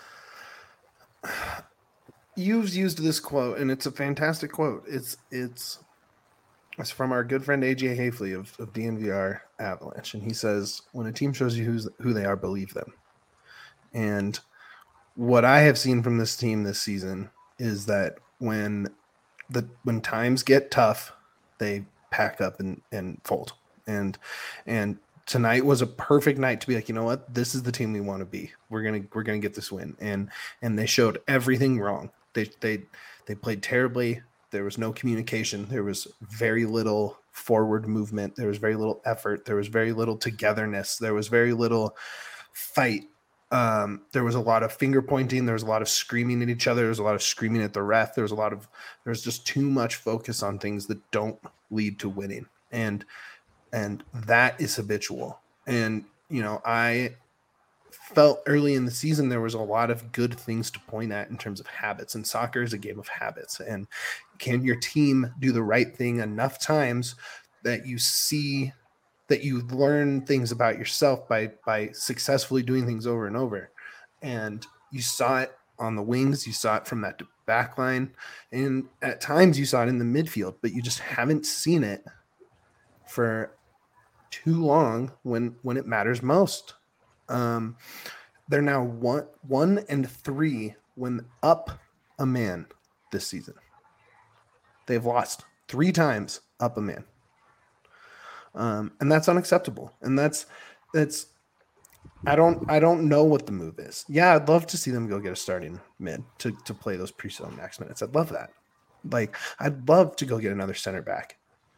You've used this quote, and it's a fantastic quote. It's it's it's from our good friend A J Hafley of, of D N V R Avalanche, and he says, "When a team shows you who's who they are, believe them." And what I have seen from this team this season is that when the when times get tough, they pack up and, and fold. And and tonight was a perfect night to be like, you know what, this is the team we want to be. We're gonna we're gonna get this win. And and they showed everything wrong. They they they played terribly. There was no communication. There was very little forward movement. There was very little effort. There was very little togetherness. There was very little fight Um, there was a lot of finger pointing. There was a lot of screaming at each other. There was a lot of screaming at the ref. There was a lot of, there's just too much focus on things that don't lead to winning. And, and that is habitual. And, you know, I felt early in the season, there was a lot of good things to point at in terms of habits, and soccer is a game of habits. And can your team do the right thing enough times that you see that you learn things about yourself by by successfully doing things over and over? And you saw it on the wings, you saw it from that back line, and at times you saw it in the midfield, but you just haven't seen it for too long when when it matters most. Um, they're now one one and three when up a man this season. They've lost three times up a man. Um, and that's unacceptable. And that's, that's, I don't, I don't know what the move is. Yeah. I'd love to see them go get a starting mid to, to play those pre-zone max minutes. I'd love that. Like, I'd love to go get another center back.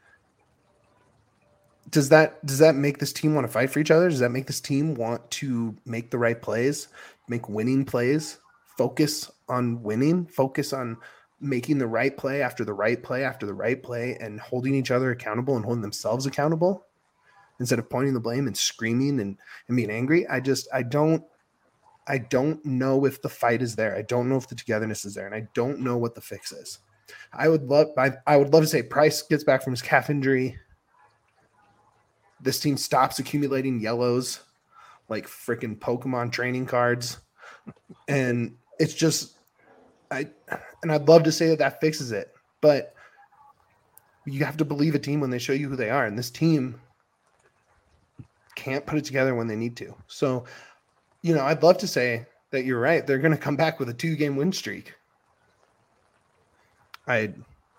Does that, does that make this team want to fight for each other? Does that make this team want to make the right plays, make winning plays, focus on winning, focus on making the right play after the right play after the right play, and holding each other accountable and holding themselves accountable instead of pointing the blame and screaming and, and being angry? I just, I don't, I don't know if the fight is there. I don't know if the togetherness is there. And I don't know what the fix is. I would love, I, I would love to say Price gets back from his calf injury. This team stops accumulating yellows like freaking Pokemon training cards. And it's just, I, and I'd love to say that that fixes it, but you have to believe a team when they show you who they are. And this team can't put it together when they need to. So, you know, I'd love to say that you're right. They're going to come back with a two game win streak. I,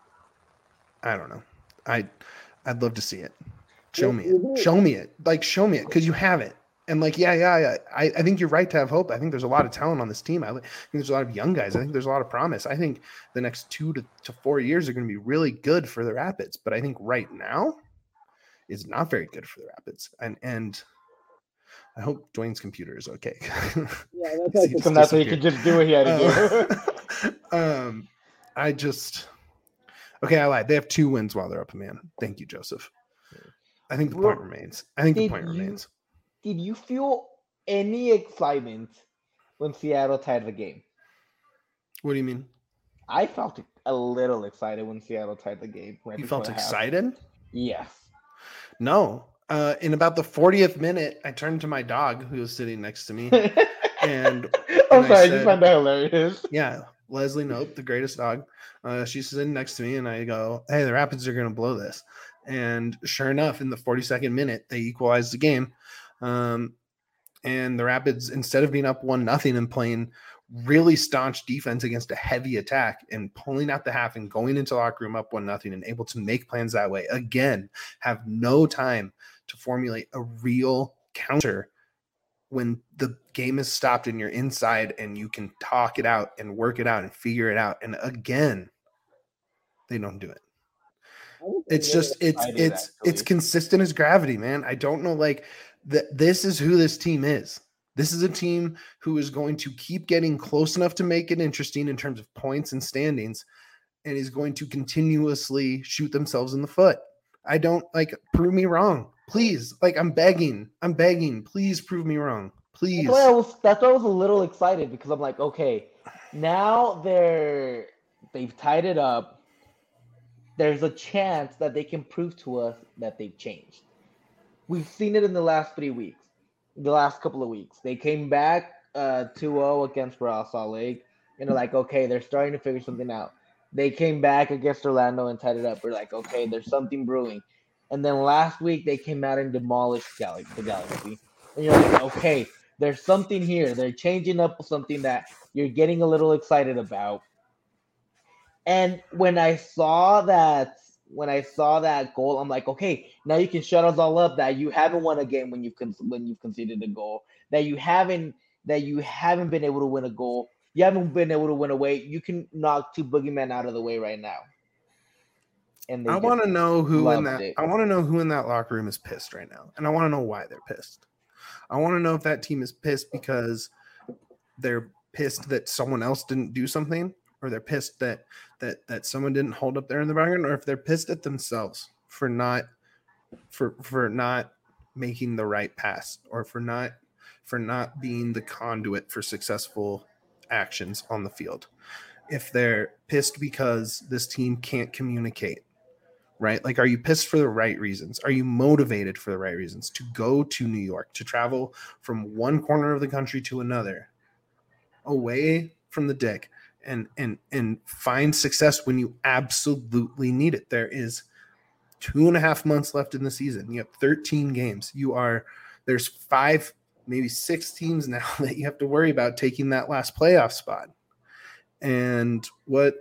I don't know. I, I'd love to see it. Show me it. Show me it. Like, show me it. Cause you have it. And like, yeah, yeah, yeah. I, I think you're right to have hope. I think there's a lot of talent on this team. I think there's a lot of young guys. I think there's a lot of promise. I think the next two to, to four years are going to be really good for the Rapids. But I think right now is not very good for the Rapids. And and I hope Dwayne's computer is okay. Yeah, that's like, that's what you can just do what he had to do. um, I just okay. I lied. They have two wins while they're up a man. Thank you, Joseph. I think the point well, remains. I think the point you, remains. Did you feel any excitement when Seattle tied the game? What do you mean? I felt a little excited when Seattle tied the game. Right you felt excited? Yes. No. Uh, in about the fortieth minute, I turned to my dog who was sitting next to me. and I'm and sorry, I, said, I just found that hilarious. Yeah. Leslie Nope, the greatest dog. Uh, she's sitting next to me, and I go, hey, the Rapids are going to blow this. And sure enough, in the forty-second minute, they equalized the game. Um, and the Rapids, instead of being up one nothing and playing really staunch defense against a heavy attack and pulling out the half and going into the locker room up one nothing and able to make plans that way, again, have no time to formulate a real counter when the game is stopped and you're inside and you can talk it out and work it out and figure it out. And again, they don't do it. It's just, it's, it's, actually. it's consistent as gravity, man. I don't know, like, that this is who this team is. This is a team who is going to keep getting close enough to make it interesting in terms of points and standings, and is going to continuously shoot themselves in the foot. I don't like prove me wrong, please. Like I'm begging, I'm begging, please prove me wrong, please. That's why I was, that's why I was a little excited because I'm like, okay, now they're they've tied it up. There's a chance that they can prove to us that they've changed. We've seen it in the last three weeks, the last couple of weeks. They came back uh, two oh against Real Salt Lake, and they're like, okay, they're starting to figure something out. They came back against Orlando and tied it up. We're like, okay, there's something brewing. And then last week, they came out and demolished Gal- the Galaxy. And you're like, okay, there's something here. They're changing up something that you're getting a little excited about. And when I saw that, when I saw that goal, I'm like, okay, now you can shut us all up that you haven't won a game when you've con- when you've conceded a goal, that you haven't that you haven't been able to win a goal, you haven't been able to win away. You can knock two boogeymen out of the way right now. And I want to know who in that it. I want to know who in that locker room is pissed right now, and I want to know why they're pissed. I want to know if that team is pissed because they're pissed that someone else didn't do something, or they're pissed that that that someone didn't hold up there in the background, or if they're pissed at themselves for not for for not making the right pass, or for not for not being the conduit for successful actions on the field. If they're pissed because this team can't communicate, right? Like, are you pissed for the right reasons? Are you motivated for the right reasons to go to New York, to travel from one corner of the country to another, away from the dick, and and and find success when you absolutely need it? There is two and a half months left in the season. You have thirteen games. You are there's five, maybe six teams now that you have to worry about taking that last playoff spot. And what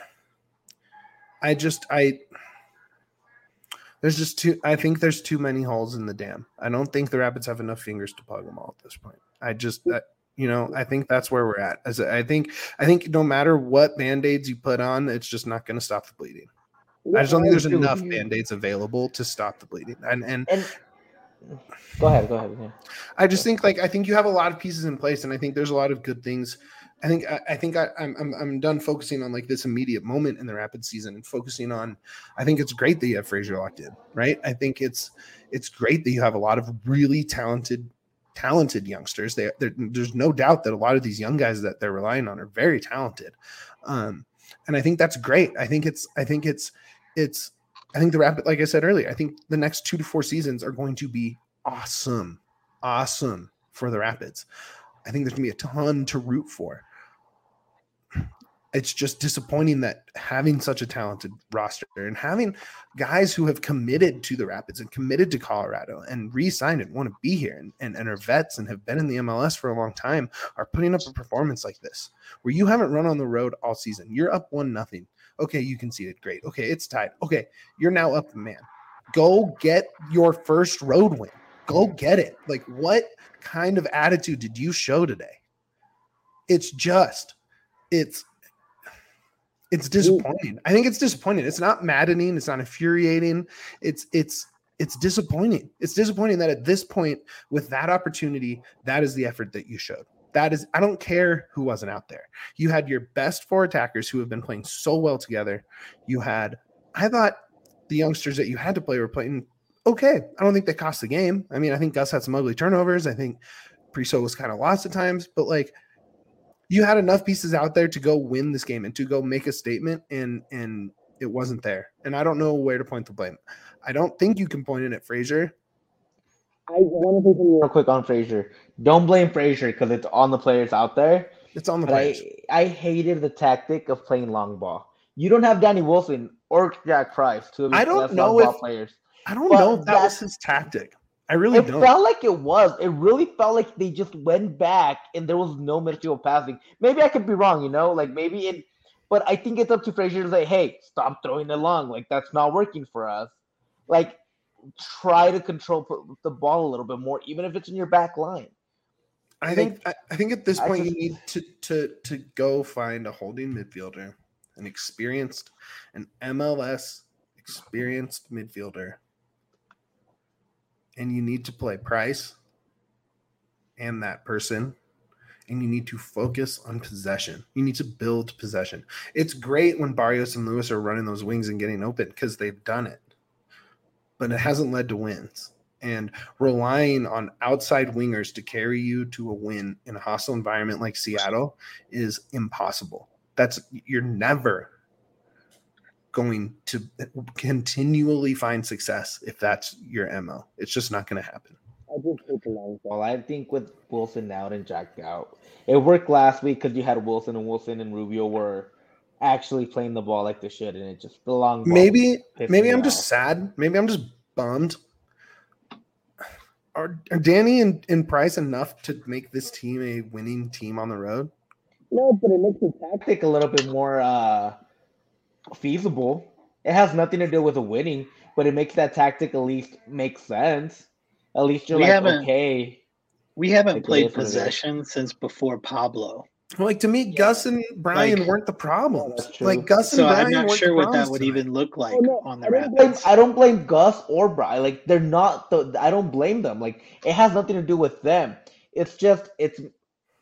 I just I there's just too I think there's too many holes in the dam. I don't think the Rapids have enough fingers to plug them all at this point. I just that you know, I think that's where we're at. As I think I think no matter what band-aids you put on, it's just not going to stop the bleeding. I just don't think there's enough band-aids available to stop the bleeding. And and, and go ahead, go ahead. Yeah. I just think like I think you have a lot of pieces in place, and I think there's a lot of good things. I think I, I think I, I'm I'm I'm done focusing on like this immediate moment in the Rapid season and focusing on. I think it's great that you have Frazier locked in, right? I think it's it's great that you have a lot of really talented talented youngsters. They there's no doubt that a lot of these young guys that they're relying on are very talented, um, and I think that's great. I think it's I think it's it's I think the Rapid, like I said earlier, I think the next two to four seasons are going to be awesome, awesome for the Rapids. I think there's gonna be a ton to root for. It's just disappointing that having such a talented roster and having guys who have committed to the Rapids and committed to Colorado and re-signed and want to be here and, and, and are vets and have been in the M L S for a long time are putting up a performance like this, where you haven't run on the road all season. You're up one nothing. Okay, you conceded. Great. Okay, it's tied. Okay, you're now up a man. Go get your first road win. Go get it. Like, what kind of attitude did you show today? It's just, it's, It's disappointing. I think it's disappointing. It's not maddening. It's not infuriating. It's it's it's disappointing. It's disappointing that at this point, with that opportunity, that is the effort that you showed. That is, I don't care who wasn't out there. You had your best four attackers who have been playing so well together. You had, I thought the youngsters that you had to play were playing okay. I don't think they cost the game. I mean, I think Gus had some ugly turnovers. I think Priso was kind of lost at times, but like, you had enough pieces out there to go win this game and to go make a statement, and and it wasn't there. And I don't know where to point the blame. I don't think you can point it at Frazier. I want to say something real quick on Frazier. Don't blame Frazier because it's on the players out there. It's on the but players. I, I hated the tactic of playing long ball. You don't have Danny Wilson or Jack Price, two of I your don't best know long ball if, players. I don't But know if that was that's- his tactic. I really It don't. felt like it was. It really felt like they just went back and there was no midfield passing. Maybe I could be wrong, you know, like maybe it, but I think it's up to Frazier to say, hey, stop throwing it long. Like, that's not working for us. Like, try to control the ball a little bit more, even if it's in your back line. I think I, I think at this I point just- you need to to to go find a holding midfielder, an experienced, an M L S experienced midfielder. And you need to play Price and that person, and you need to focus on possession. You need to build possession. It's great when Barrios and Lewis are running those wings and getting open because they've done it, but it hasn't led to wins. And relying on outside wingers to carry you to a win in a hostile environment like Seattle is impossible. That's you're never going to continually find success if that's your M O. It's just not going to happen. I just hate the long ball. Well, I think with Wilson out and Jack out, it worked last week because you had Wilson and Wilson and Rubio were actually playing the ball like they should, and it just the long ball. Maybe pissed maybe me I'm off. just sad. Maybe I'm just bummed. Are, are Danny and, and Price enough to make this team a winning team on the road? No, but it makes the tactic. tactic a little bit more uh, feasible. It has nothing to do with the winning, but it makes that tactic at least make sense. At least you're We like, haven't- okay. We haven't Like it played is what it is. possession since before Pablo. Well, like to me, Gus and Brian Like- weren't the problems. That's true. Like Gus and So Brian I'm not weren't sure the what that problems would tonight. even look like Oh, no, on the I don't blame, Rapids. I don't blame Gus or Brian. Like they're not. The, I don't blame them. Like it has nothing to do with them. It's just it's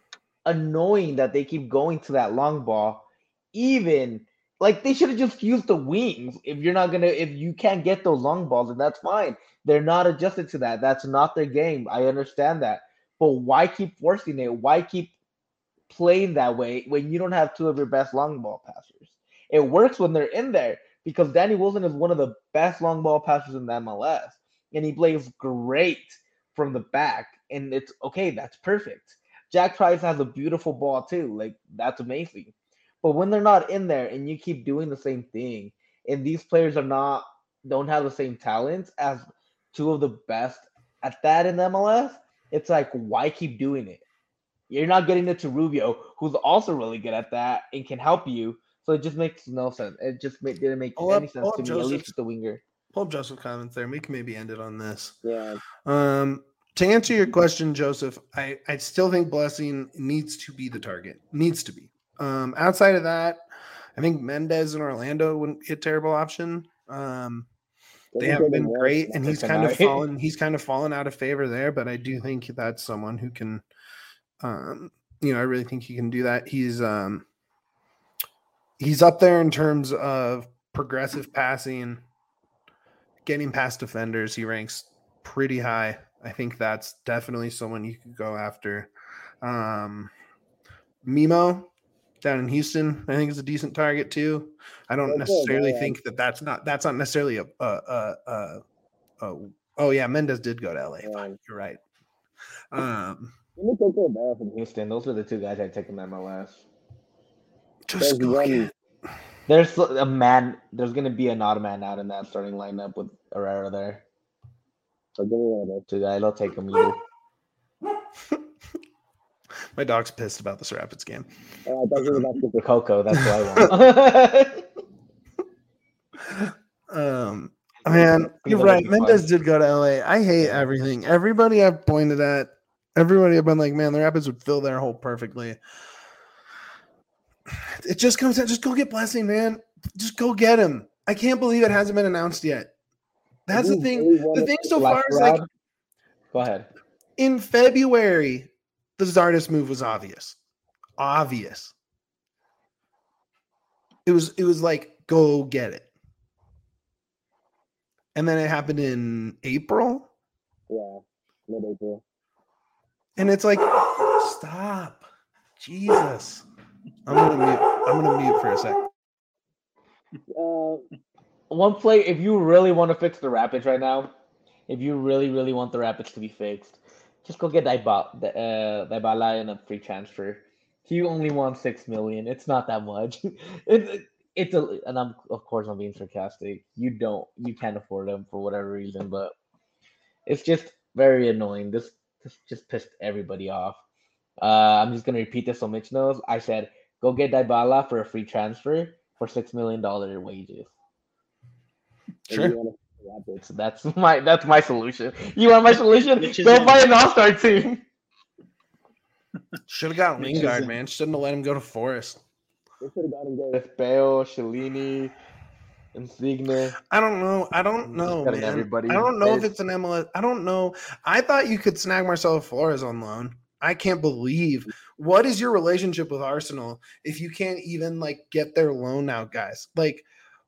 annoying that they keep going to that long ball. Even like they should have just used the wings. If you're not gonna, if you can't get those long balls, then that's fine. They're not adjusted to that. That's not their game. I understand that. But why keep forcing it? Why keep playing that way when you don't have two of your best long ball passers? It works when they're in there because Danny Wilson is one of the best long ball passers in the M L S. And he plays great from the back. And it's okay, that's perfect. Jack Price has a beautiful ball too. Like, that's amazing. But when they're not in there and you keep doing the same thing, and these players are not don't have the same talents as two of the best at that in the M L S, it's like, why keep doing it? You're not getting it to Rubio, who's also really good at that and can help you. So it just makes no sense. It just made, didn't make Pull any up- sense pull to up me, at least Joseph's- with the winger. Pull up Joseph comments there. We can maybe end it on this. Yeah. Um, to answer your question, Joseph, I, I still think Blessing needs to be the target. Needs to be. Um, outside of that, I think Mendez in Orlando wouldn't be a terrible option. Um, they haven't been great, and he's kind of tonight. fallen. He's kind of fallen out of favor there. But I do think that's someone who can, um, you know, I really think he can do that. He's um, he's up there in terms of progressive passing, getting past defenders. He ranks pretty high. I think that's definitely someone you could go after. Um, Mimo down in Houston, I think is a decent target too. I don't That's good, necessarily yeah. think that that's not that's not necessarily a, a, a, a, a oh yeah, Mendez did go to L A. Yeah. Fine, you're right. Um, Let me take it back from Houston, those are the two guys I'd take in the M L S. just There's go one- get There's a man. There's gonna be an odd man out in that starting lineup with Herrera there. So give me one of those. Two guys, I'll take him either. my dog's pissed about this Rapids game. Oh, I thought you were about to The Coco, that's what I want. Um, man, He's you're gonna right. be Mendez fun. did go to L A. I hate Yeah. everything. Everybody I've pointed at, everybody I've been like, man, the Rapids would fill their hole perfectly. It just comes out. Just go get Blessing, man. Just go get him. I can't believe it hasn't been announced yet. That's the You thing. really The wanna thing take so far Last is like round? Go ahead. in February, the Zardes move was obvious. Obvious. It was it was like, go get it. And then it happened in April. Yeah, mid-April. And it's like, stop. Jesus. I'm gonna mute. I'm gonna mute for a sec. Uh, One play, if you really want to fix the Rapids right now, if you really, really want the Rapids to be fixed, just go get Dybala, uh, Dybala in a free transfer. He only wants six million. It's not that much. It's it's a, and I'm of course I'm being sarcastic. You don't, you can't afford him for whatever reason, but it's just very annoying. This this just pissed everybody off. Uh, I'm just gonna repeat this so Mitch knows. I said, go get Dybala for a free transfer for six million dollar wages. if Sure. you wanna wrap it. So that's my that's my solution. You want my solution? Which is Go in- buy an all-star team. Should have got Which is Lingard, in- man. Shouldn't have let him go to Forest. They should have gotten good. With Bale, Shalini, Insigne. I don't know. I don't Just know, cutting man. everybody. I don't know if There's- it's an M L S. I don't know. I thought you could snag Marcelo Flores on loan. I can't believe. What is your relationship with Arsenal if you can't even like get their loan out, guys? Like,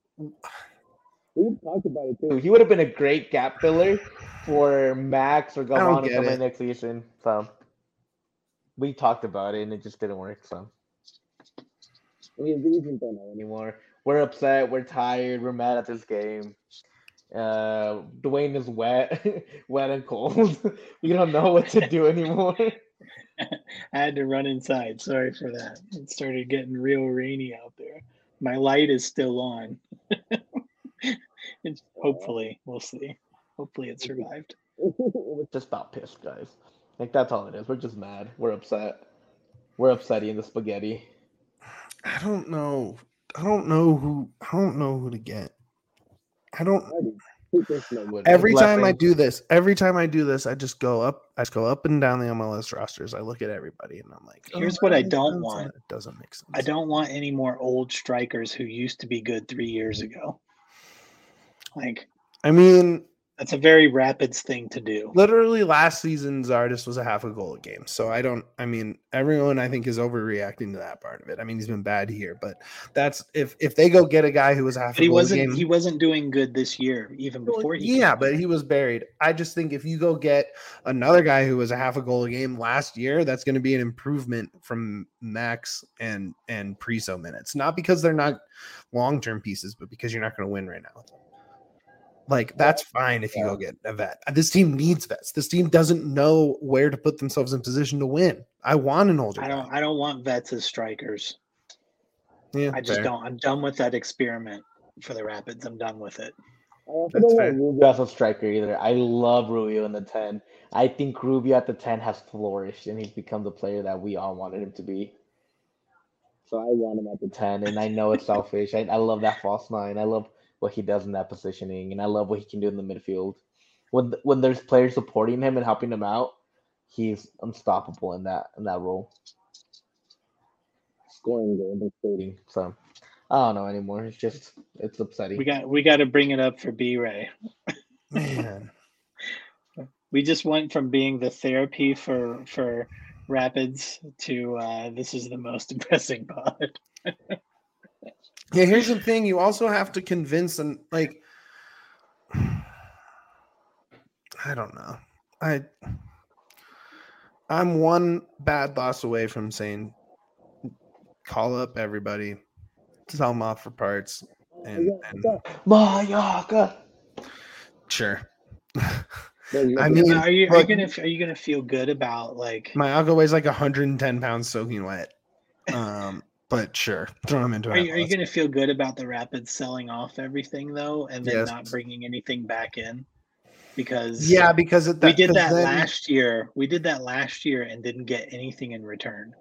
We talked about it too. He would have been a great gap filler for Max or don't Galvan to get come it. in next season. So we talked about it and it just didn't work. So I mean, the reason don't know anymore. anymore, we're upset. We're tired. We're mad at this game. Uh, Dwayne is wet, wet and cold. We don't know what to do anymore. I had to run inside. Sorry for that. It started getting real rainy out there. My light is still on. It's, hopefully, we'll see. Hopefully, it survived. We're just about pissed, guys. Like that's all it is. We're just mad. We're upset. We're upsetting the spaghetti. I don't know. I don't know who. I don't know who to get. I don't. With Every time I Blessing. do this, every time I do this, I just go up. I just go up and down the M L S rosters. I look at everybody, and I'm like, Here's oh, what that I makes don't sense, and want. It doesn't make sense. I don't want any more old strikers who used to be good three years ago. Like, I mean, That's a very Rapids thing to do. Literally, last season's artist was a half a goal a game. So I don't. I mean, everyone I think is overreacting to that part of it. I mean, he's been bad here, but that's if if they go get a guy who was a half But a he goal wasn't. a game. He wasn't doing good this year, even before he. Yeah, but he was buried. I just think if you go get another guy who was a half a goal a game last year, that's going to be an improvement from Max and and Priso minutes. Not because they're not long term pieces, but because you're not going to win right now. Like, that's fine if you go get a vet. This team needs vets. This team doesn't know where to put themselves in position to win. I want an older I don't. guy. I don't want vets as strikers. Yeah, I just fair. don't. I'm done with that experiment for the Rapids. I'm done with it. I also That's don't fair. want Rubio as a striker either. I love Rubio in the ten. I think Rubio at the ten has flourished, and he's become the player that we all wanted him to be. So I want him at the ten, and I know it's selfish. I, I love that false nine. I love what he does in that positioning, and I love what he can do in the midfield. When when there's players supporting him and helping him out, he's unstoppable in that in that role. Scoring goals and creating. So I don't know anymore. It's just it's upsetting. We got. We got to bring it up for B-Ray. Man. We just went from being the therapy for for Rapids to uh, this is the most depressing pod. Yeah, here's the thing. You also have to convince them, like, I don't know. I, I'm one bad loss away from saying, call up everybody, sell them off for parts, and, and Mayaka. sure. No, I mean, are you are you look, gonna are you gonna feel good about like Mayaka weighs like one hundred ten pounds soaking wet. Um, but sure, throw him into are it. you, are you gonna feel good about the Rapids selling off everything though, and then Yes. not bringing anything back in? Because Yeah, because it, that, we did 'cause that then- last year. We did that last year and didn't get anything in return.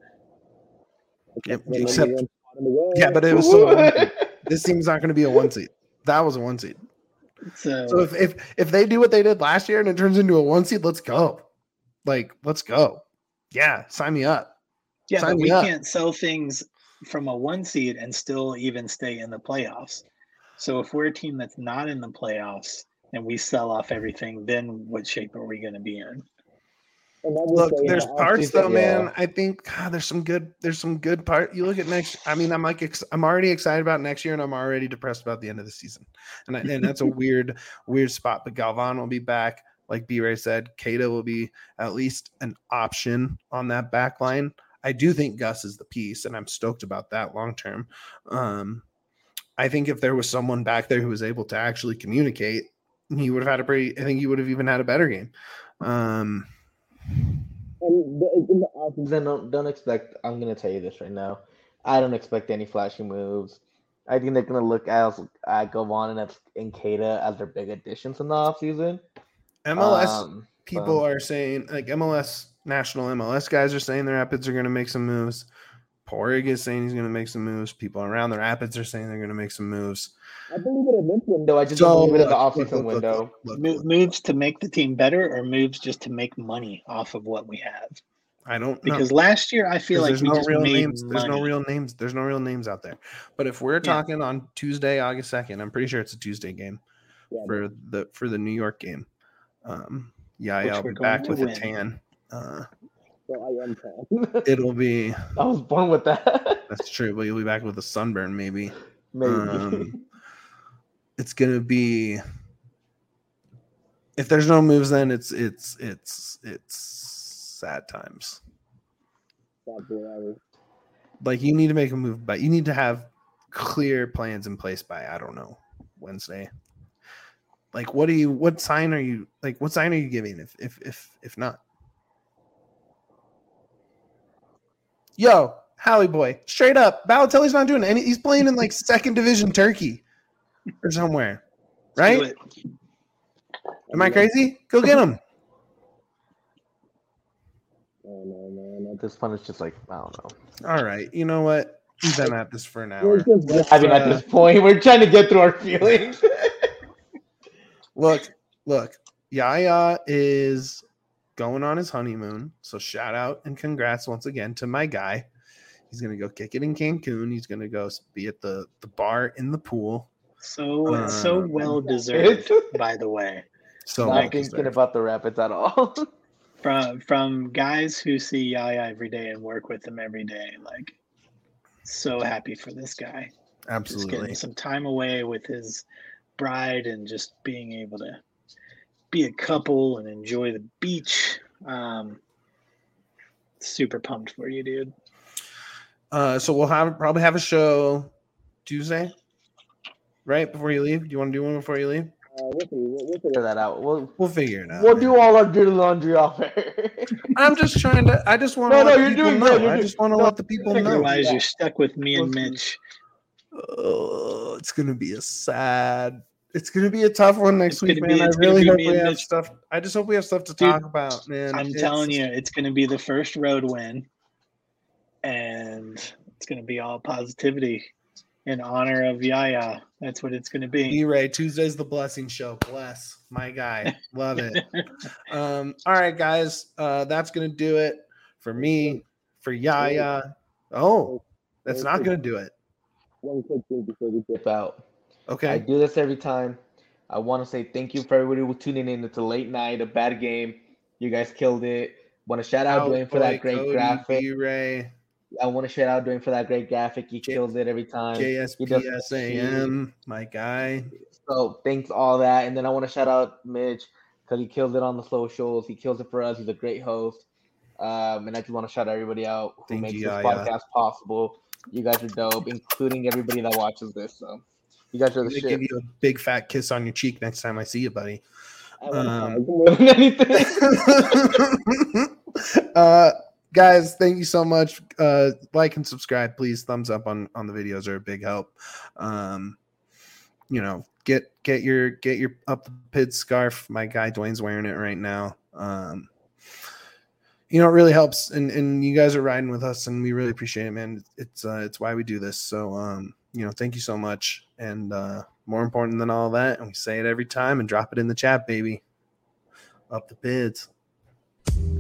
Yep, When except, number one spot in the world. yeah, but it was still a one seed. This team's not going to be a one seed. That was a one seed. So, So if, if if they do what they did last year and it turns into a one seed, let's go. Like, let's go. Yeah, sign me up. yeah, sign but me we up. can't sell things from a one seed and still even stay in the playoffs. So if we're a team that's not in the playoffs and we sell off everything, then what shape are we going to be in? And that was Look, saying there's that parts offseason, though, yeah. man. I think God, there's some good. There's some good part. You look at next. I mean, I'm like, ex- I'm already excited about next year, and I'm already depressed about the end of the season. And I, and that's a weird, weird spot. But Galvan will be back, like B-Ray said. Keita will be at least an option on that back line. I do think Gus is the piece, and I'm stoked about that long term. Um, I think if there was someone back there who was able to actually communicate, he would have had a pretty. I think he would have even had a better game. Um, And the, in the offseason, Then don't don't expect. I'm gonna tell you this right now. I don't expect any flashy moves. I think they're gonna look at at Govan and and Keita as their big additions in the offseason. M L S Um, people so- are saying, like M L S national M L S guys are saying the Rapids are going to make some moves. Porig is saying he's going to make some moves. People around the Rapids are saying they're going to make some moves. I believe it in this window. No, I just So don't believe it in the look, offseason look, look, look, window. look, Mo- look. moves to make the team better or moves just to make money off of what we have? I don't know. Because last year I feel like there's we no just real made names. money. There's no real names. There's no real names out there. But if we're Yeah. talking on Tuesday, August second, I'm pretty sure it's a Tuesday game Yeah, for the for the New York game. Um, yeah, Which I'll we're be going back to with a win. tan. Uh, so I am calm. it'll be I was born with that. that's true, but you'll be back with a sunburn maybe. Maybe. Um, it's gonna be if there's no moves, then it's it's it's it's sad times. That's where I was. Like you need to make a move, but you need to have clear plans in place by I don't know Wednesday. Like what do you? What sign are you? Like what sign are you giving? If if if if not, yo, Hallie boy, straight up, Balotelli's not doing any. He's playing in like second division Turkey or somewhere, Let's do right? it. Am I crazy? Go get him. Oh, no, no, no. This one is just like I don't know. All right, you know what? We've been at this for an We're hour. just- I mean, at uh, this point, we're trying to get through our feelings. Look, look, Yaya is going on his honeymoon. So shout out and congrats once again to my guy. He's gonna go kick it in Cancun. He's gonna go be at the, the bar in the pool. So Uh, so well deserved, by the way. So Not well thinking deserved. about the Rapids at all. From from guys who see Yaya every day and work with him every day, like so happy for this guy. Just Absolutely. getting some time away with his bride and just being able to be a couple and enjoy the beach. Um, super pumped for you, dude. Uh, so we'll have probably have a show Tuesday, right before you leave. Do you want to do one before you leave? Uh, we'll, see, we'll, we'll Figure figure that out. We'll We'll figure it out. we'll man. do all our dirty laundry off air. I'm just trying to. I just want to No, let no, you're people doing know. good, you're I doing- just want to no, let the people you're know. doing Otherwise, that. you're stuck with me and We'll see. Mitch. Oh, it's gonna be a sad. It's gonna be a tough one next It's week, gonna be- man. I it's gonna really be hope me we and have Mitch. stuff. I just hope we have stuff to Dude, talk about, man. I'm It's- telling you, it's going to be the first road win, and it's going to be all positivity in honor of Yaya. That's what it's going to be. B-Ray, Tuesday's the blessing show. Bless my guy. Love it. um, all right, guys. Uh, that's gonna do it for me, for Yaya. Oh, that's not gonna do it. one quick thing before we get Dip out. I Okay. do this every time. I want to say thank you for everybody who tuning in. It's a late night, a bad game. You guys killed it. Want to shout out Dwayne for that great Cody, graphic. B-Ray, I want to shout out Dwayne for that great graphic. He J- kills it every time. K He S P does S the A sheet. M, my guy. So thanks all that, and then I want to shout out Mitch because he kills it on the socials. He kills it for us. He's a great host, um, and I just want to shout everybody out who Thank makes you, this Yaya. podcast possible. You guys are dope, including everybody that watches this. So you guys are I'm the gonna give shit. you a big fat kiss on your cheek next time I see you, buddy. I want to Um, More than anything. uh, guys, thank you so much. Uh, like and subscribe, please. Thumbs up on on the videos are a big help. Um, you know, get get your get your up the pid scarf. My guy Dwayne's wearing it right now. Um, you know, it really helps, and and you guys are riding with us, and we really appreciate it, man. It's uh, it's why we do this. So, um, you know, thank you so much, and uh, more important than all that, and we say it every time, and drop it in the chat, baby. Up the pids.